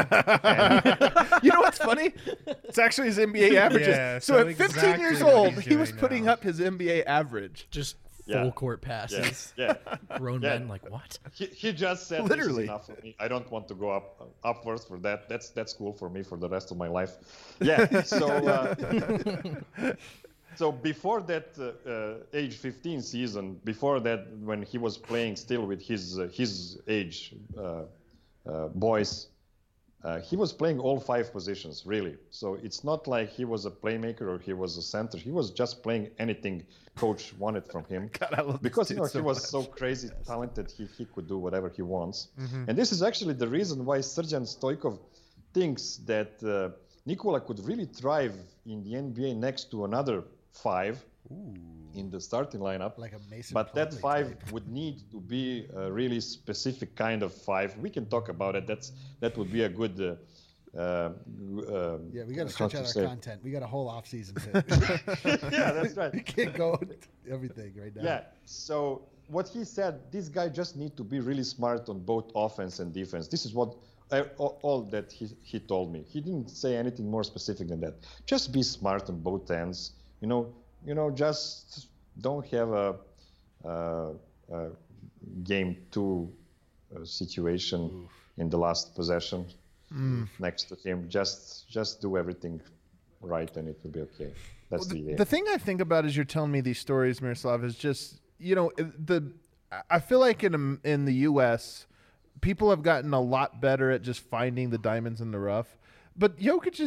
S3: You know what's funny? It's actually his N B A averages.
S6: Yeah,
S3: so,
S6: so
S3: at fifteen
S6: exactly
S3: years
S6: what
S3: old,
S6: he's
S3: he was
S6: doing
S3: putting
S6: now.
S3: up his N B A average.
S4: Just
S7: Yeah.
S4: full court
S7: Yeah,
S4: passes.
S7: yeah.
S4: Grown
S7: Yeah.
S4: men like what?
S7: He, he just said,
S3: Literally.
S7: "This is enough for me. I don't want to go up upwards for that. That's that's cool for me for the rest of my life." Yeah. So uh, so before that uh, uh, age fifteen season, before that, when he was playing still with his uh, his age uh, uh, boys, uh, he was playing all five positions really. So it's not like he was a playmaker or he was a center. He was just playing anything coach wanted from him.
S3: God, I love this
S7: Because you
S3: dude
S7: know
S3: so
S7: he was
S3: much.
S7: so crazy talented, he, he could do whatever he wants.
S3: Mm-hmm.
S7: And this is actually the reason why Srđan Stojkov thinks that uh, Nikola could really thrive in the N B A next to another five in the starting lineup.
S5: Like a Mason
S7: but that
S5: Plumlee
S7: five
S5: type.
S7: would need to be a really specific kind of five. We can talk about it. That's that would be a good. Uh, uh, uh,
S5: Yeah, we got to
S7: how
S5: stretch
S7: to
S5: out our
S7: say-
S5: content. We got a whole off season. To,
S7: Yeah, that's right.
S5: we can't go everything right now.
S7: Yeah. So what he said, this guy just need to be really smart on both offense and defense. This is what uh, all, all that he, he told me. He didn't say anything more specific than that. Just be smart on both ends. You know, you know, just don't have a, uh, a game two uh, situation in the last possession next to him. Just just do everything right, and it will be okay. That's the idea.
S3: The thing I think about as you're telling me these stories, Miroslav, is just you know the. I feel like in in the U S, people have gotten a lot better at just finding the diamonds in the rough, but Jokic is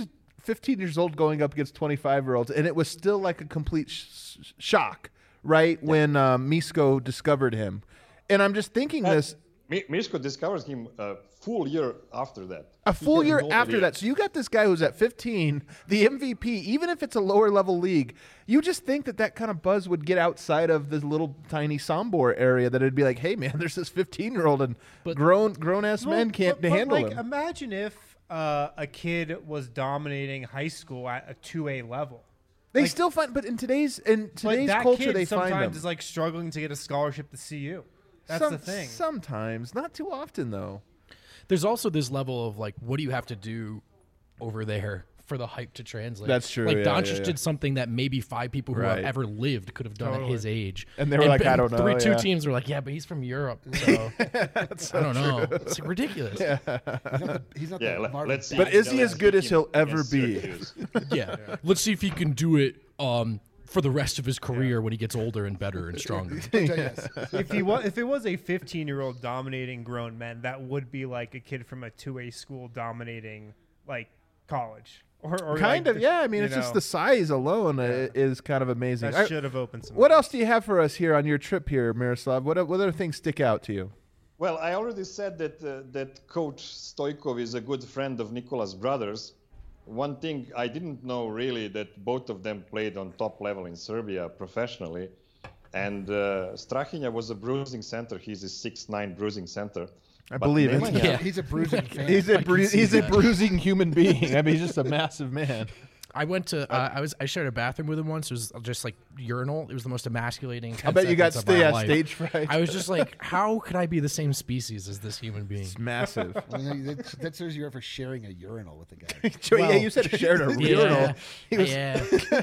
S3: fifteen years old going up against twenty-five year olds, and it was still like a complete sh- shock, right? Yeah. When um, Misko discovered him, and I'm just thinking
S7: and
S3: this.
S7: Misko discovers him a full year after that.
S3: A full year after that. So you got this guy who's at fifteen, the M V P, even if it's a lower level league, you just think that that kind of buzz would get outside of this little tiny Sombor area, that it'd be like, hey, man, there's this fifteen-year-old and but, grown, grown-ass well, men can't
S1: but,
S3: handle
S1: but like,
S3: him.
S1: Imagine if uh, a kid was dominating high school at a two A level.
S3: They
S1: like,
S3: still find, but in today's in today's
S1: that
S3: culture,
S1: kid
S3: they find them.
S1: sometimes is like struggling to get a scholarship to C U. That's
S3: Some,
S1: the thing.
S3: Sometimes, not too often though.
S4: There's also this level of like, what do you have to do over there for the hype to translate?
S3: That's true.
S4: Like
S3: yeah,
S4: Doncic
S3: yeah, yeah.
S4: did something that maybe five people who
S3: Right.
S4: have ever lived could have done
S1: Totally.
S4: at his age,
S3: And they were like, I don't know,
S4: Three, two
S3: yeah.
S4: teams were like, yeah, but he's from Europe, so,
S3: so
S4: I don't know. It's like ridiculous. Yeah.
S5: He's not the, he's not
S7: Yeah,
S5: the
S7: let,
S5: Marvin
S7: let's see.
S3: But is he
S7: let's
S3: as good
S7: see
S3: as he'll
S7: him
S3: ever
S7: against
S3: be?
S7: Syracuse.
S4: Let's see if he can do it um, for the rest of his career when he gets older and better and stronger.
S5: yes.
S1: if he was, if it was a fifteen-year-old dominating grown men, that would be like a kid from a two A school dominating like college. Or, or
S3: Kind
S1: like
S3: of,
S1: the-
S3: yeah. I mean,
S1: you
S3: it's just
S1: know,
S3: the size alone uh, is kind of amazing.
S1: that
S3: I-
S1: should have opened some.
S3: what
S1: doors.
S3: else do you have for us here on your trip here, Miroslav? What what other things stick out to you?
S7: Well, I already said that uh, that Coach Stoikov is a good friend of Nicolas Brothers. One thing I didn't know really, that both of them played on top level in Serbia professionally. And uh, Strahinja was a bruising center. He's a six nine bruising center.
S3: I
S7: But
S3: believe it.
S7: Nemanja-
S4: Yeah.
S5: He's a bruising fan.
S3: He's a
S4: I can
S3: bru-
S4: see
S3: he's a
S4: that.
S3: bruising human being. I mean, he's just a massive man.
S4: I went to uh, I was I shared a bathroom with him once. It was just like urinal. It was the most emasculating.
S3: I
S4: ten
S3: bet you got
S4: seconds of my
S3: sta- yeah,
S4: life.
S3: stage fright.
S4: I was just like, how could I be the same species as this human being?
S3: It's massive.
S5: Well, you know, that, that shows you're for sharing a urinal with the guy.
S3: Joey, yeah,
S4: Well,
S3: you said shared a
S4: Yeah,
S3: urinal. He was-
S4: yeah.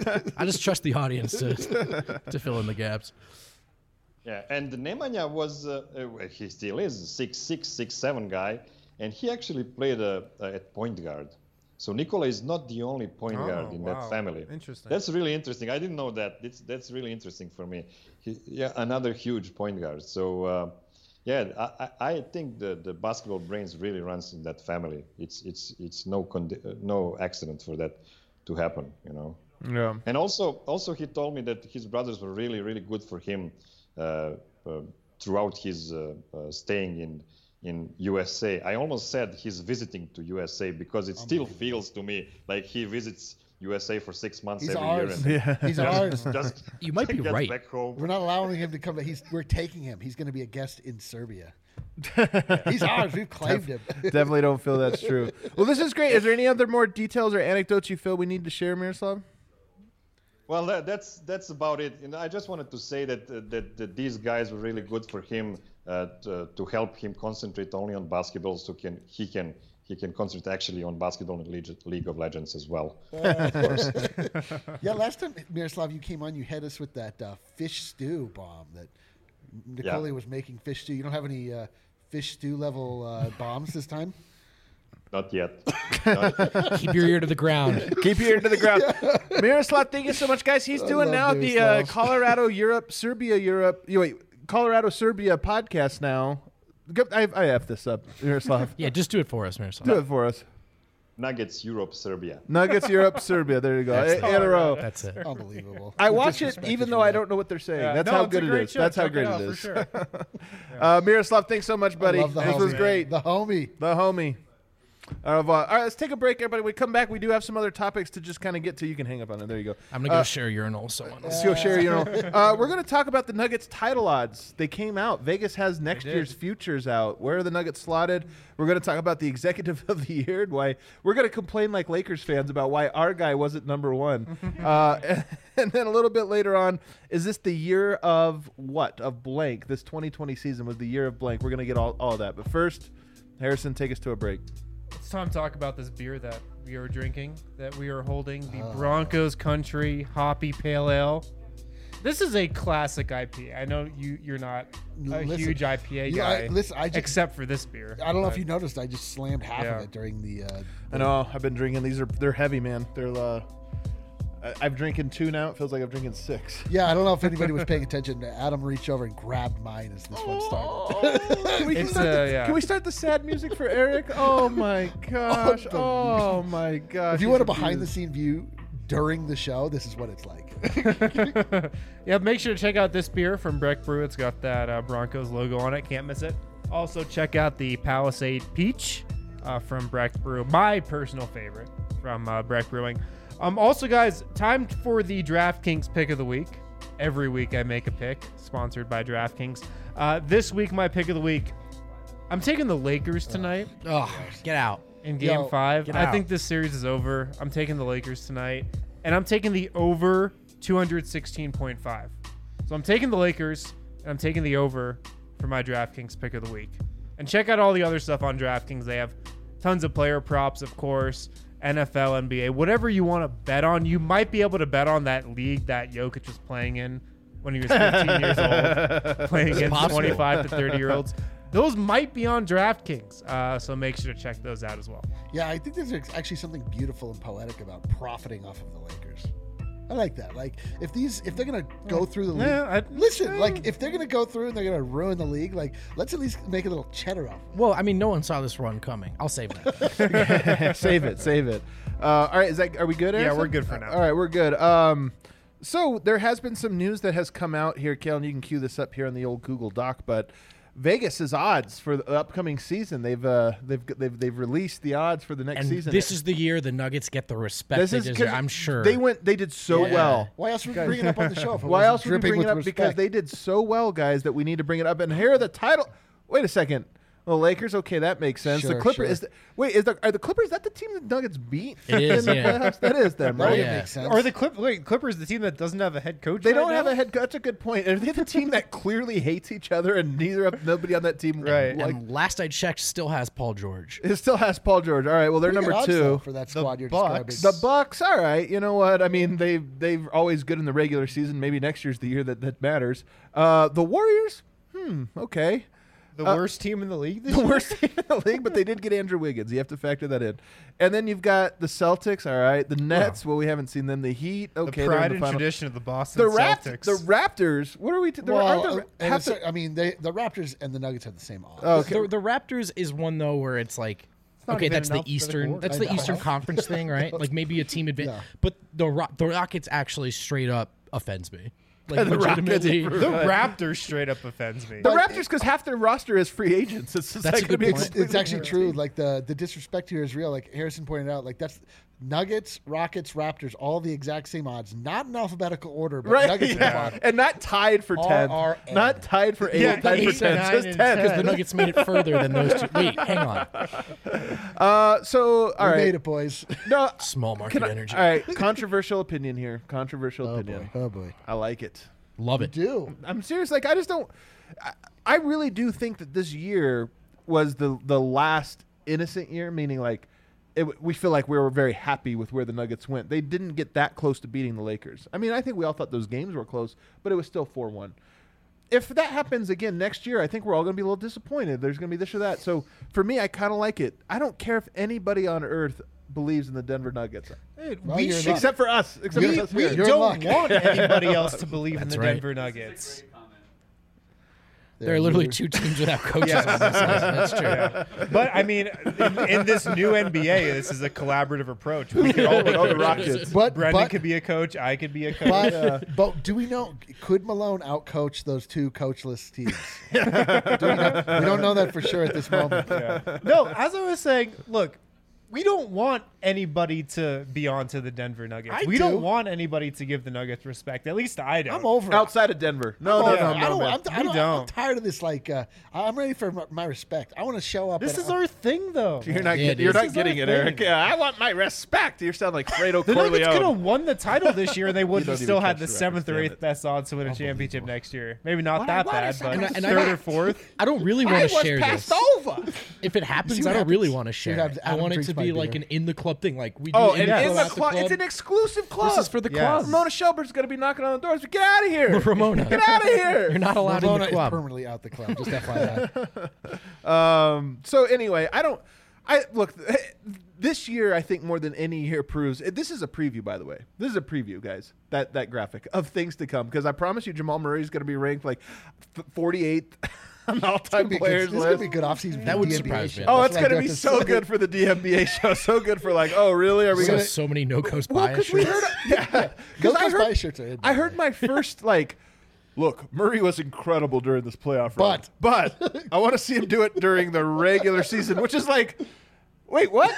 S4: I just trust the audience to to fill in the gaps.
S7: Yeah, and Nemanja was, uh, uh, he still is, a six six, six seven guy, and he actually played uh, uh, at point guard. So Nikola is not the only point
S1: Oh,
S7: guard in
S1: wow.
S7: that family.
S1: Interesting.
S7: That's really interesting. I didn't know that. It's, that's really interesting for me. He, yeah, another huge point guard. So, uh, yeah, I, I I think the, the basketball brains really runs in that family. It's it's it's no condi- uh, no accident for that to happen, you know.
S3: Yeah.
S7: And also, also he told me that his brothers were really, really good for him uh, uh, throughout his uh, uh, staying in in U S A. I almost said he's visiting to U S A because it still feels to me like he visits U S A for six months
S5: He's
S7: every
S5: ours.
S7: year.
S3: Yeah.
S5: He's ours.
S7: And just
S4: You might be
S7: gets
S4: right.
S7: back home.
S5: We're not allowing him to come. But he's we're taking him. He's going to be a guest in Serbia. He's ours. We've claimed him.
S3: Definitely don't feel that's true. Well, this is great. Is there any other more details or anecdotes you feel we need to share, Miroslav?
S7: Well, that, that's that's about it. And I just wanted to say that uh, that, that these guys were really good for him uh, to, to help him concentrate only on basketball, so can he can he can concentrate actually on basketball and League, League of Legends as well. Of course.
S5: Yeah, last time Miroslav, you came on, you hit us with that uh, fish stew bomb that Nicole
S7: Yeah.
S5: was making fish stew. You don't have any uh, fish stew level uh, bombs this time?
S7: Not yet. Not yet.
S4: Keep your ear to the ground.
S3: Keep your ear to the ground. Miroslav, thank you so much, guys. He's doing
S5: love
S3: now the uh,
S5: Miroslav.
S3: Colorado Europe, Serbia Europe. You wait, Colorado Serbia podcast now. Go- I I f this up, Miroslav.
S4: Yeah, just do it for us, Miroslav.
S3: Do it for us.
S7: Nuggets, Europe, Serbia.
S3: Nuggets Europe, Serbia. There you go.
S4: That's
S3: In in a row.
S4: That's it.
S5: Unbelievable.
S3: I
S5: You
S3: watch it
S5: disrespected
S3: even
S5: me
S3: though I
S5: there.
S3: don't know what they're saying.
S1: Yeah,
S3: That's
S1: no,
S3: how
S1: it's a
S3: good it
S1: great
S3: is.
S1: show.
S3: That's how
S1: Check
S3: great
S1: out
S3: it
S1: for
S3: is.
S1: sure.
S3: uh, Miroslav, thanks so much, buddy.
S5: love the
S3: This
S5: homie,
S3: was
S5: man.
S3: great.
S5: The homie.
S3: The homie. Au revoir. All right, let's take a break, everybody. When we come back, we do have some other topics to just kind of get to. You can hang up on it. There you go.
S4: I'm gonna go
S3: Uh,
S4: share urinal. So on.
S3: Let's go share, you know. Uh, we're going to talk about the Nuggets title odds. They came out. Vegas has next
S1: did.
S3: year's futures out. Where are the Nuggets slotted? We're going to talk about the executive of the year. And why we're going to complain like Lakers fans about why our guy wasn't number one. uh, and, and then a little bit later on, is this the year of what? Of blank. This twenty twenty season was the year of blank. We're going to get all, all of that. But first, Harrison, take us to a break.
S1: It's time to talk about this beer that we are drinking, that we are holding, the Broncos Country Hoppy Pale Ale. This is a classic I P A. I know you, you're not a
S5: Listen,
S1: huge I P A
S5: you-
S1: guy,
S5: I- listen, I just-
S1: except for this beer.
S5: I don't know if
S1: but-
S5: you noticed, I just slammed half
S1: Yeah.
S5: of it during the. Uh,
S3: I know. I've been drinking. These are they're heavy, man. They're uh, I- I've drinking two now. It feels like I'm drinking six.
S5: Yeah, I don't know if anybody was paying attention. Adam reached over and grabbed mine as this one started.
S3: Can we,
S6: It's,
S3: start
S6: uh,
S3: the,
S6: yeah.
S3: can we start the sad music for Eric? Oh my gosh. Oh my gosh.
S5: If you
S3: He's
S5: want a
S3: refused.
S5: behind-the-scene view during the show, this is what it's like.
S6: Yeah, make sure to check out this beer from Breck Brew. It's got that uh, Broncos logo on it. Can't miss it. Also, check out the Palisade Peach uh, from Breck Brew. My personal favorite from uh, Breck Brewing. Um, also, guys, time for the DraftKings pick of the week. Every week I make a pick, sponsored by DraftKings. Uh, this week, my pick of the week, I'm taking the Lakers tonight
S4: Oh, get out.
S6: in Game
S5: Yo,
S6: Five.
S4: get
S6: I
S4: out.
S6: think this series is over. I'm taking the Lakers tonight, and I'm taking the over two sixteen point five. So I'm taking the Lakers, and I'm taking the over for my DraftKings pick of the week. And check out all the other stuff on DraftKings. They have tons of player props, of course, N F L, N B A, whatever you want to bet on. You might be able to bet on that league that Jokic was playing in when he was fifteen years old, playing against
S4: possible.
S6: twenty-five to thirty year olds. Those might be on DraftKings, uh, so make sure to check those out as well.
S5: Yeah, I think there's actually something beautiful and poetic about profiting off of the Lakers. I like that. Like, if these, if they're gonna go through the league,
S6: Yeah, I-
S5: listen. Like, if they're gonna go through and they're gonna ruin the league, like, let's at least make a little cheddar off.
S4: Well, I mean, no one saw this run coming. I'll save that.
S3: save it, save it. Uh, all right, is that are we good?
S6: Yeah,
S3: Harrison?
S6: we're good for now.
S3: All right, we're good. Um, so there has been some news that has come out here, Kalen. You can cue this up here on the old Google Doc, but Vegas's odds for the upcoming season. They've uh, they've they've they've released the odds for the next
S4: And
S3: season.
S4: this is the year the Nuggets get the respect
S3: This
S4: they
S3: is
S4: deserve.
S3: 'cause
S4: I'm sure.
S3: they went. They did so
S5: Yeah.
S3: well.
S5: Why else would we bring it up on the show? If it
S3: Why
S5: wasn't
S3: else would we
S5: dripping
S3: bring it
S5: with
S3: up? Because
S5: respect?
S3: they did so well, guys, that we need to bring it up. And here are the title. Wait a second. The Lakers, okay, that makes sense. the
S5: Sure,
S3: Clippers
S5: sure.
S3: is the, wait, is the are the Clippers that the team that Nuggets beat?
S4: It is,
S3: in the
S4: yeah.
S3: playoffs? That is them,
S5: That
S3: right?
S5: would
S4: yeah.
S5: make sense.
S6: Or the Clip wait, Clippers, the team that doesn't have a head coach.
S3: They
S6: right
S3: don't
S6: now?
S3: have a head. That's a good point. Are they the team that clearly hates each other and neither of nobody on that team
S6: Right.
S3: like
S4: and last I checked, still has Paul George.
S3: it still has Paul George. All right, well they're
S5: Pretty
S3: number
S5: good odds, though,
S3: two.
S5: for that squad you're
S6: Bucks.
S5: describing.
S3: The Bucks, all right. You know what? I mean, they they've always good in the regular season. Maybe next year's the year that that matters. Uh, the Warriors, hmm, okay.
S6: the
S3: uh,
S6: worst team in the league. This
S3: The
S6: year?
S3: worst team in the league, but they did get Andrew Wiggins. You have to factor that in. And then you've got the Celtics, all right. The Nets, well, we haven't seen them. The Heat, okay.
S6: the
S3: they're in
S6: pride
S3: the
S6: and
S3: final.
S6: tradition of the Boston
S3: The, Rapt-
S6: Celtics.
S3: the Raptors, what are we? T- there
S5: well,
S3: aren't
S5: uh,
S3: there,
S5: and
S3: half
S5: it's-
S3: the-
S5: I mean, they, the Raptors and the Nuggets have the same odds.
S3: Oh, okay.
S4: The, the Raptors is one though where it's like,
S6: not
S4: okay,
S6: even
S4: that's the
S6: enough for the
S4: Eastern,
S6: court.
S4: that's
S5: I
S4: the
S5: know.
S4: Eastern Conference thing, right? Like maybe a team advantage,
S5: Yeah.
S4: but the Ro- the Rockets actually straight up offends me. Like
S3: The Rockets
S4: legitimately.
S3: are-
S6: The Raptors straight up offends me.
S3: The Raptors, because half their roster is free agents. It's just
S4: That's
S3: like
S4: a good
S3: gonna be
S4: point.
S5: It's, it's actually true. Like the the disrespect here is real. Like Harrison pointed out, like that's Nuggets, Rockets, Raptors, all the exact same odds. Not in alphabetical order, but
S3: right,
S5: Nuggets at the
S3: yeah.
S5: bottom.
S3: and not tied for
S5: R
S3: ten,
S5: R N.
S3: not tied for eight,
S6: Yeah,
S3: tied for
S6: eight,
S3: ten,
S6: nine,
S3: just
S6: and
S3: ten.
S4: Because the Nuggets made it further than those two. Wait, hang on.
S3: Uh, so all
S5: We
S3: right,
S5: made it, boys.
S3: no,
S4: Small market
S3: can I-
S4: energy.
S3: all right, controversial opinion here. Controversial
S5: Oh
S3: opinion.
S5: boy. Oh boy.
S3: I like it.
S4: Love it.
S5: Do
S3: I'm serious. Like I just don't. I, I really do think that this year was the the last innocent year, meaning like it, we feel like we were very happy with where the Nuggets went. They didn't get that close to beating the Lakers. I mean, I think we all thought those games were close, but it was still four one. If that happens again next year, I think we're all going to be a little disappointed. There's going to be this or that. So for me, I kind of like it. I don't care if anybody on earth believes in the Denver Nuggets,
S6: Hey,
S5: Well,
S6: we
S5: you're
S6: should,
S5: not.
S3: except for us. Except
S5: We-
S3: for us
S6: we
S3: here.
S5: You're in
S6: don't
S5: luck.
S6: want anybody else to believe in
S4: That's
S6: the
S4: right.
S6: Denver Nuggets.
S4: There are literally two teams without coaches on this list. That's true.
S6: But I mean, in, in this new N B A, this is a collaborative approach. We could all be
S3: Oh, the
S6: coaches.
S3: Rockets.
S5: But
S6: Brendan
S5: but,
S6: could be a coach. I could be a coach.
S5: but, but do we know? Could Malone outcoach those two coachless teams? do we, know, we don't know that for sure at this moment.
S6: No, as I was saying, look, we don't want anybody to be on to the Denver Nuggets.
S5: I
S6: we
S5: do.
S6: not want anybody to give the Nuggets respect. At least I don't.
S5: I'm over it.
S3: Outside of Denver. No,
S5: I'm
S3: no,
S5: over
S3: no,
S5: it.
S3: no,
S5: I don't,
S3: man.
S5: I'm, I
S6: We
S5: don't, I'm
S6: don't.
S5: tired of this. Like, uh, I'm ready for my, my respect. I want to show up.
S6: This
S5: and-
S6: is our thing, though.
S3: You're not,
S4: Yeah,
S3: get,
S4: it
S3: you're
S4: is.
S3: not
S6: This is
S3: getting
S6: our
S3: it,
S6: thing.
S3: Eric. Yeah, I want my respect. You sound like Fredo
S6: The Nuggets could have
S3: Corleone.
S6: won the title this year, and they would
S3: You don't
S6: have still
S3: even
S6: had
S3: catch
S6: the
S3: the
S6: seventh or
S3: reference,
S6: eighth
S3: damn it.
S6: best odds to win a championship next year. Maybe not
S3: What-
S6: that
S3: what
S6: bad,
S3: is
S6: but
S3: that?
S4: And I-
S6: third
S4: and I-
S6: or fourth.
S4: I don't really
S3: I
S4: want
S3: was
S4: to share
S3: passed
S4: this.
S3: over.
S4: If it happens,
S5: See what
S4: I don't really
S5: happens.
S4: want to
S5: See what
S4: share.
S5: happens.
S4: it. I
S5: Adam
S4: want it
S5: drinks
S4: to
S5: my
S4: be like
S5: beer.
S4: an in the club thing. Like we do
S3: Oh,
S4: in
S3: and
S4: the
S3: in the
S4: out
S3: club, it's an exclusive club.
S4: This is for the
S6: Yes.
S4: club.
S3: Ramona Shelburne's going to be knocking on the doors. Get out of here.
S4: Ramona.
S3: Get out of here.
S4: You're not allowed
S5: Ramona
S4: in the
S5: is
S4: club.
S5: permanently out the club. Just F Y I.
S3: Um. So anyway, I don't. I look this year. I think more than any year proves. This is a preview, by the way. This is a preview, guys. That that graphic of things to come. Because I promise you, Jamal Murray is going to be ranked like forty-eighth on all-time players
S5: This is
S3: list.
S5: going to be a good offseason.
S4: That would
S5: D N B A
S4: surprise
S5: show.
S4: me.
S3: Oh,
S5: That's
S3: it's
S5: what I
S3: going to
S5: do
S3: be
S5: at
S3: so
S5: the-
S3: good for the D N B A show. So good for like, oh, really? Are we
S4: So,
S3: going to?
S4: so many no coast
S3: Well,
S4: bias
S3: because we
S4: shirts.
S3: heard, yeah,
S5: Those
S3: because I
S5: bias
S3: heard,
S5: shirts are in, by
S3: I
S5: the
S3: heard
S5: way.
S3: my first like, look, Murray was incredible during this playoff run,
S5: But-
S3: but I want to see him do it during the regular season, which is like, wait, what?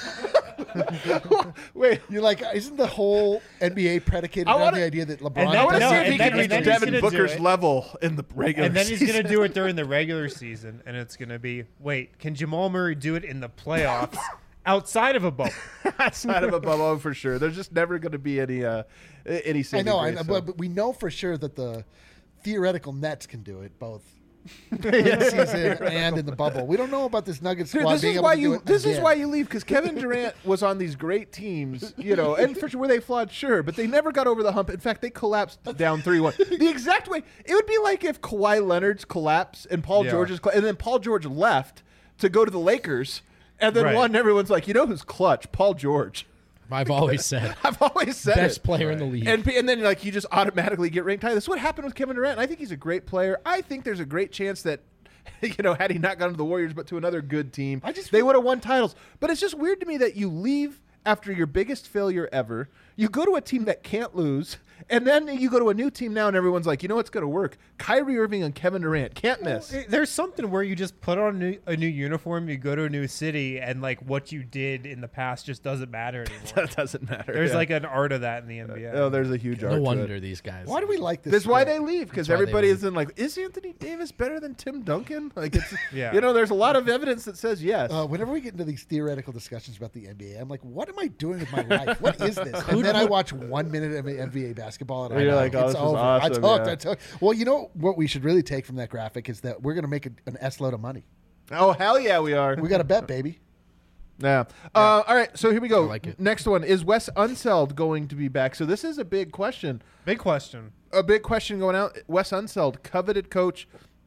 S3: Wait,
S5: You're like, isn't the whole N B A predicated
S3: I
S5: on
S3: wanna-
S5: the idea that LeBron?
S6: And
S3: I want to
S6: No,
S3: see if
S6: and
S3: he
S6: then-
S3: can reach
S6: and then he's
S3: Devin
S6: gonna do
S3: Booker's
S6: it.
S3: level in the regular
S6: And then he's
S3: season.
S6: going to do it during the regular season, and it's going to be, wait, can Jamal Murray do it in the playoffs outside of a bubble?
S3: outside of a bubble for sure. There's just never going to be any uh, any.
S5: I
S3: saving
S5: know, I
S3: grace,
S5: know
S3: so.
S5: but, but we know for sure that the theoretical Nets can do it both in the season and in the bubble. We don't know about this Nuggets
S3: Dude,
S5: squad
S3: this
S5: being
S3: is
S5: able
S3: why
S5: to do
S3: you.
S5: it
S3: This is
S5: again.
S3: why you leave because Kevin Durant was on these great teams, you know, and for sure were they flawed, sure, but they never got over the hump. In fact, they collapsed down three one. The exact way it would be like if Kawhi Leonard's collapse and Paul
S6: Yeah.
S3: George's, coll- and then Paul George left to go to the Lakers, and then
S6: Right.
S3: one. Everyone's like, you know who's clutch? Paul George.
S4: I've always said
S3: I've always said
S4: best
S3: it.
S4: player in the league.
S3: And, and then like you just automatically get ranked high. That's what happened with Kevin Durant. And I think he's a great player. I think there's a great chance that, you know, had he not gone to the Warriors but to another good team,
S5: I just
S3: they would have won titles. But it's just weird to me that you leave after your biggest failure ever. You go to a team that can't lose, and then you go to a new team now, and everyone's like, you know what's going to work? Kyrie Irving and Kevin Durant can't miss.
S6: Eh, There's something where you just put on a new, a new uniform, you go to a new city, and like what you did in the past just doesn't matter anymore.
S3: That doesn't matter.
S6: There's
S3: yeah.
S6: like an art of that in the N B A.
S3: oh, there's a huge art
S4: no
S3: to it.
S4: wonder these guys.
S5: Why do we like this?
S3: That's why
S5: sport?
S3: they leave because
S4: That's why they
S3: everybody
S4: leave.
S3: is in like, is Anthony Davis better than Tim Duncan? Like it's,
S6: Yeah.
S3: you know, there's a lot of evidence that says yes.
S5: Uh, whenever we get into these theoretical discussions about the N B A, I'm like, what am I doing with my life? What is this? And then I watch one minute of N B A basketball and I
S3: You're
S5: know
S3: like, oh,
S5: it's
S3: this is
S5: over.
S3: awesome,
S5: I took,
S3: yeah.
S5: I took. Well, you know what we should really take from that graphic is that we're going to make a, an S load of money.
S3: oh hell yeah, we are.
S5: We got to bet, baby.
S3: Yeah. Uh, all right. So here we go.
S4: I like it.
S3: Next one is Wes Unseld going to be back? So this is a big question.
S6: Big question.
S3: A big question going out. Wes Unseld, coveted coach.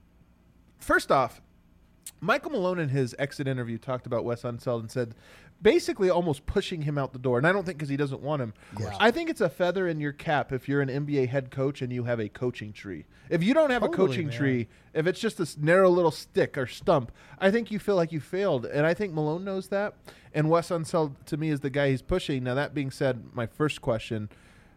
S3: First off, Michael Malone in his exit interview talked about Wes Unseld and said, basically almost pushing him out the door. And I don't think because he doesn't want him.
S5: course.
S3: I think it's a feather in your cap if you're an N B A head coach and you have a coaching tree. If you don't have a
S6: Totally,
S3: coaching
S6: man.
S3: tree, if it's just this narrow little stick or stump, I think you feel like you failed. And I think Malone knows that. And Wes Unseld, to me, is the guy he's pushing. Now, that being said, my first question,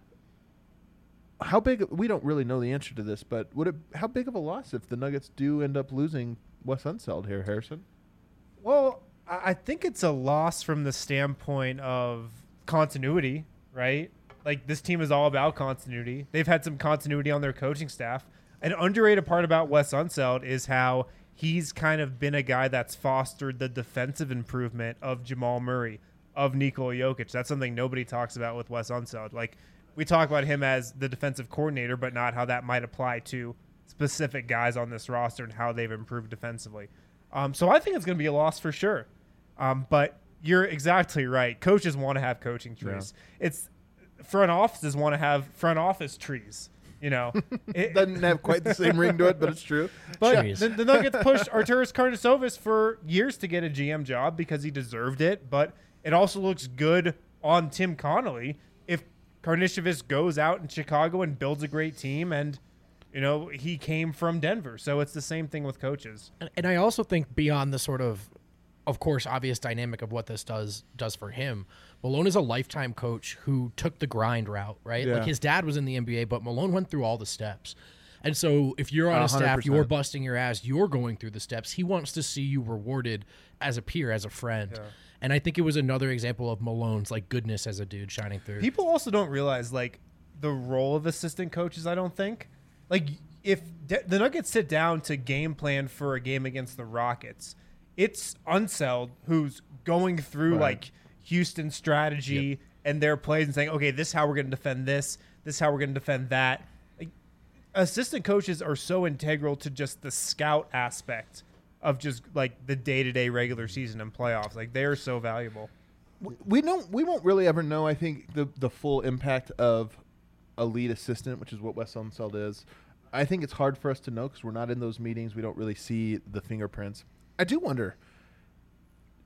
S3: how big, we don't really know the answer to this, but would it, how big of a loss if the Nuggets do end up losing Wes Unseld here, Harrison?
S6: Well, I I think it's a loss from the standpoint of continuity, right? Like this team is all about continuity. They've had some continuity on their coaching staff. An underrated part about Wes Unseld is how he's kind of been a guy that's fostered the defensive improvement of Jamal Murray, of Nikola Jokic. That's something nobody talks about with Wes Unseld. Like we talk about him as the defensive coordinator, but not how that might apply to specific guys on this roster and how they've improved defensively. Um, so I think it's going to be a loss for sure. Um, but you're exactly right. Coaches want to have coaching trees. It's front offices want to have front office trees. You know, it,
S3: Doesn't have quite the same ring to it, but it's true.
S6: but
S4: Trees.
S6: the, the Nuggets pushed Arturas Karnisovas for years to get a G M job because he deserved it. But it also looks good on Tim Connolly if Karnisovas goes out in Chicago and builds a great team. And you know, he came from Denver, so it's the same thing with coaches.
S4: And, and I also think beyond the sort of, of course, obvious dynamic of what this does does for him, Malone is a lifetime coach who took the grind route, right?
S3: Yeah.
S4: Like his dad was in the N B A, but Malone went through all the steps. And so if you're on
S3: A
S4: a
S3: hundred
S4: staff, you're
S3: percent.
S4: busting your ass, you're going through the steps. He wants to see you rewarded as a peer, as a friend. And I think it was another example of Malone's like goodness as a dude shining through.
S6: People also don't realize like the role of assistant coaches. I don't think like if de- the Nuggets sit down to game plan for a game against the Rockets, it's Unseld who's going through
S3: Right.
S6: like Houston strategy and their plays and saying, okay, this is how we're going to defend this. This is how we're going to defend that. Like, assistant coaches are so integral to just the scout aspect of just like the day-to-day regular season and playoffs. Like they are so valuable.
S3: We don't. We won't really ever know. I think the the full impact of a lead assistant, which is what Wes Unseld is. I think it's hard for us to know because we're not in those meetings. We don't really see the fingerprints. I do wonder.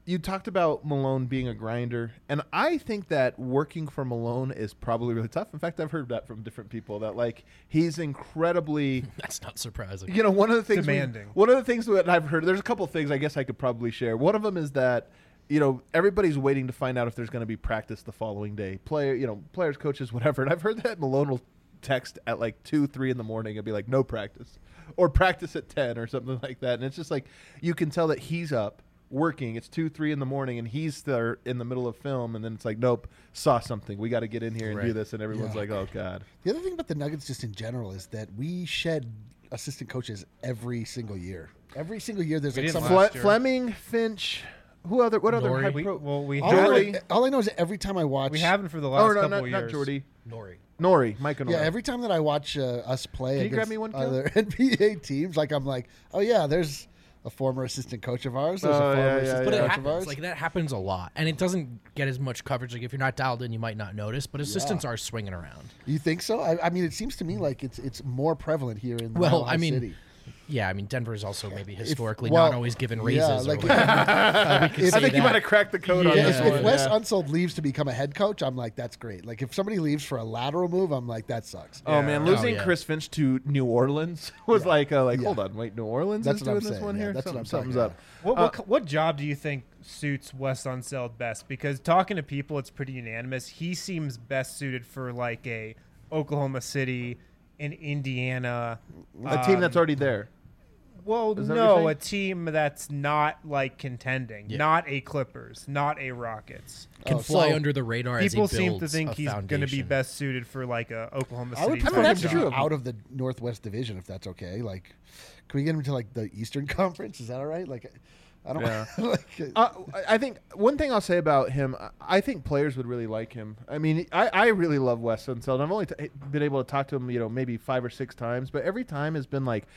S3: you talked about Malone being a grinder, and I think that working for Malone is probably really tough. In fact, I've heard that from different people that like he's incredibly.
S4: That's not surprising.
S3: You know, one of the things we-
S6: Demanding.
S3: one of the things that I've heard. There's a couple of things I guess I could probably share. One of them is that you know everybody's waiting to find out if there's going to be practice the following day. Player, you know, players, coaches, whatever. And I've heard that Malone will text at like two, three in the morning and be like, "No practice," or practice at ten or something like that. And it's just like you can tell that he's up. Working, it's two, three in the morning, and he's there in the middle of film, and then it's like, nope, saw something. We got to get in here and do
S4: Right.
S3: this, and everyone's
S5: Yeah.
S3: like, oh god.
S5: The other thing about the Nuggets, just in general, is that we shed assistant coaches every single year. Every single year, there's
S6: We
S5: like
S6: didn't
S5: some.
S6: last
S3: Fle-
S6: year.
S3: Fleming, Finch, who other? What other?
S4: Nori.
S3: high
S6: We,
S3: pro-
S6: well, we
S5: All I, know,
S6: haven't.
S5: all I know is that every time I watch,
S6: We haven't for the last
S3: oh no,
S6: couple
S3: not,
S6: of
S3: not
S6: years.
S3: Jordy.
S4: Nori.
S3: Nori, Mike and
S5: yeah,
S3: Nori.
S5: every time that I watch uh, us play
S3: Can you grab
S5: against
S3: me one, Kel?
S5: other N B A teams, like I'm like, oh yeah, there's a former assistant coach of ours. There's
S3: Oh,
S5: a former
S3: yeah, yeah,
S5: assistant
S4: But
S3: yeah.
S4: it
S5: coach of
S4: happens.
S5: ours.
S4: Like that happens a lot, and it doesn't get as much coverage. Like if you're not dialed in, you might not notice. But assistants are swinging around.
S5: You think so? I, I mean, it seems to me like it's it's more prevalent here in
S4: Well,
S5: Mile High
S4: I mean,
S5: City.
S4: Yeah, I mean Denver's also maybe historically
S5: well,
S4: not always given
S5: yeah,
S4: raises.
S5: like-
S4: or whatever. Uh, we could
S5: If-
S4: say
S3: I think you
S4: that.
S3: might have cracked the code on
S5: Yeah,
S3: this
S5: if,
S3: one.
S5: if Wes
S3: Yeah.
S5: Unseld leaves to become a head coach, I'm like, that's great. Like if somebody leaves for a lateral move, I'm like, that sucks.
S3: Oh man, losing
S4: Oh, yeah.
S3: Chris Finch to New Orleans was like, uh, like,
S5: Yeah.
S3: hold on, wait, New Orleans
S5: That's
S3: is
S5: what I'm
S3: doing this
S5: saying,
S3: one
S5: yeah,
S3: here.
S5: that's what
S3: Something-
S5: I'm
S3: something's
S5: talking
S3: up.
S6: What,
S3: Uh,
S6: what co- what job do you think suits Wes Unseld best? Because talking to people, it's pretty unanimous. He seems best suited for like a Oklahoma City, an Indiana,
S3: a team that's
S6: um,
S3: already there.
S6: Well,
S3: Is that what you're
S6: no, a
S3: saying?
S6: team that's not like contending,
S4: Yeah.
S6: not a Clippers, not a Rockets.
S4: Can
S5: Oh,
S4: fly
S5: so
S4: under the radar. as he
S6: People seem to
S4: builds
S6: think
S4: a
S6: he's going to be
S4: foundation.
S6: best suited for like a Oklahoma
S5: I would
S6: City.
S5: prefer
S3: mean,
S5: him
S3: that's
S5: to
S3: true.
S5: be out of the Northwest Division if that's okay. Like, can we get him to like the Eastern Conference? Is that all right? Like, I don't.
S3: Yeah.
S5: like,
S3: Uh, I- I think one thing I'll say about him, I- I think players would really like him. I mean, I, I really love Wes Unseld. I've only t- been able to talk to him, you know, maybe five or six times, but every time has been like,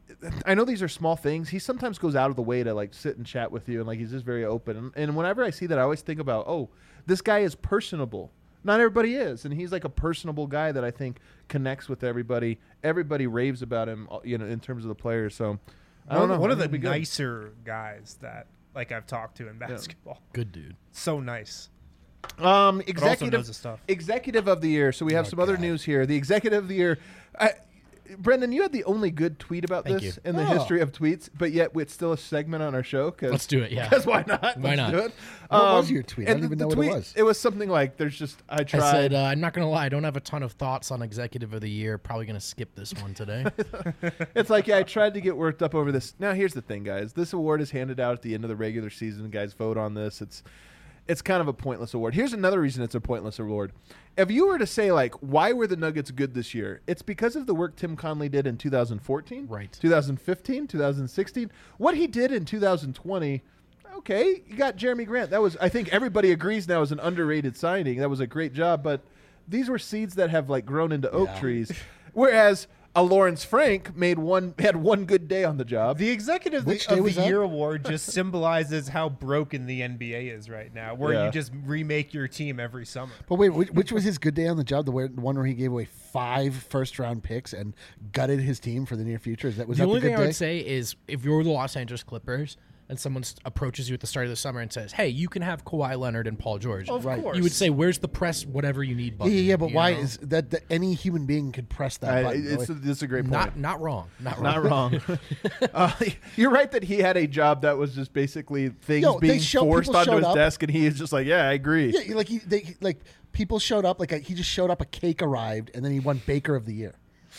S3: I know these are small things. He sometimes goes out of the way to like sit and chat with you, and like he's just very open. And, and whenever I see that, I always think about, oh, this guy is personable. Not everybody is, and he's like a personable guy that I think connects with everybody. Everybody raves about him, uh, you know, in terms of the players. So I don't
S6: One,
S3: know.
S6: one
S3: I
S6: of the
S3: think it'd be good.
S6: nicer guys that like I've talked to in basketball.
S4: Good dude.
S6: So nice.
S3: Um,
S6: But also
S3: executive
S6: knows his stuff.
S3: executive of the year. So we have
S5: Oh,
S3: some other
S5: God.
S3: news here. The executive of the year. I, Brendan, you had the only good tweet about
S4: Thank
S3: this
S4: you.
S3: in the
S5: Oh.
S3: history of tweets, but yet it's still a segment on our show. Cause,
S4: Let's do it, yeah.
S3: Because why not?
S4: Why
S3: Let's
S4: not?
S3: do it.
S5: What
S3: Um,
S5: was your tweet? I
S3: and
S5: don't even
S3: the
S5: know what it
S3: tweet-
S5: was.
S3: It was something like, "There's just I
S4: I
S3: tried."
S4: said, uh, I'm not going to lie. I don't have a ton of thoughts on Executive of the Year. Probably going to skip this one today.
S3: It's like, yeah, I tried to get worked up over this. Now, here's the thing, guys. This award is handed out at the end of the regular season. Guys, vote on this. It's it's kind of a pointless award. Here's another reason it's a pointless award. If you were to say, like, why were the Nuggets good this year? It's because of the work Tim Conley did in two thousand fourteen,
S4: Right.
S3: two thousand fifteen, two thousand sixteen. What he did in two thousand twenty, okay, you got Jeremy Grant. That was, I think everybody agrees now, is an underrated signing. That was a great job, but these were seeds that have, like, grown into oak
S5: Yeah.
S3: trees. Whereas a Lawrence Frank made one had one good day on the job.
S6: The executive
S5: Which
S6: of
S5: day was
S6: the
S5: that?
S6: year award just symbolizes how broken the N B A is right now, where
S3: Yeah.
S6: you just remake your team every summer.
S5: But wait, which, which was his good day on the job? The where- the one where he gave away five first round picks and gutted his team for the near future. Is that was
S4: the
S5: that
S4: only
S5: the good
S4: thing I
S5: day?
S4: would say is if you're the Los Angeles Clippers and someone s- approaches you at the start of the summer and says, hey, you can have Kawhi Leonard and Paul George.
S6: Of
S5: Right.
S6: course.
S4: You would say, where's the press, whatever you need
S5: yeah,
S4: button?
S5: yeah, yeah, but
S4: you
S5: why
S4: know?
S5: is that, that any human being could press that
S3: I,
S5: button?
S3: it's,
S5: Like,
S3: it's a great point.
S4: Not not wrong. Not wrong.
S3: Not wrong. uh, you're right that he had a job that was just basically things
S5: Yo, they
S3: being
S5: show-
S3: forced
S5: people
S3: onto
S5: showed
S3: his
S5: up.
S3: desk, and he is just like, "Yeah, I agree."
S5: yeah, like he, they, like people showed up. Like a, he just showed up. A cake arrived, and then he won Baker of the Year.